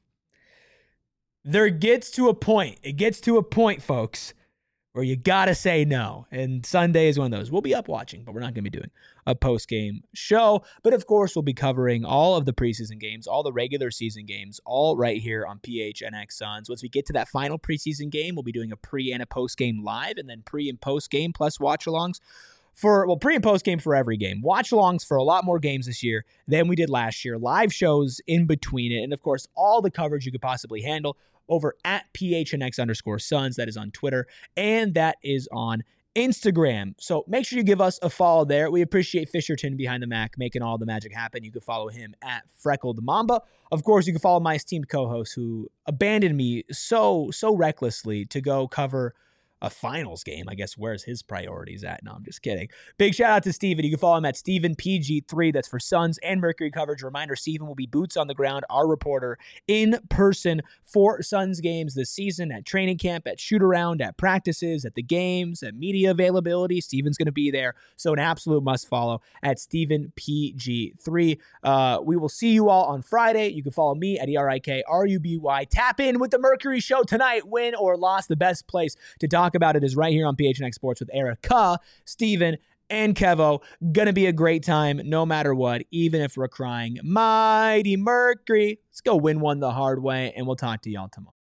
There gets to a point. It gets to a point, folks, where you got to say no. And Sunday is one of those. We'll be up watching, but we're not going to be doing a post-game show. But, of course, we'll be covering all of the preseason games, all the regular season games, all right here on P H N X Suns. Once we get to that final preseason game, we'll be doing a pre- and a post-game live, and then pre- and post-game plus watch-alongs for, well, pre- and post-game for every game. Watch-alongs for a lot more games this year than we did last year. Live shows in between it. And, of course, all the coverage you could possibly handle over at P H N X underscore Suns. That is on Twitter, and that is on Instagram. So make sure you give us a follow there. We appreciate Fisherton behind the Mac making all the magic happen. You can follow him at Freckled Mamba. Of course, you can follow my esteemed co-host who abandoned me so, so recklessly to go cover a finals game. I guess where's his priorities at? No, I'm just kidding. Big shout out to Steven. You can follow him at Steven P G three. That's for Suns and Mercury coverage. Reminder, Steven will be boots on the ground, our reporter, in person for Suns games this season, at training camp, at shoot around, at practices, at the games, at media availability. Steven's going to be there. So an absolute must follow at Steven P G three. Uh, we will see you all on Friday. You can follow me at E R I K R U B Y. Tap in with the Mercury Show tonight. Win or loss, the best place to talk about it is right here on P H N X Sports with Erica, Steven, and Kevo. Gonna be a great time no matter what, even if we're crying. Mighty Mercury. Let's go win one the hard way, and we'll talk to y'all tomorrow.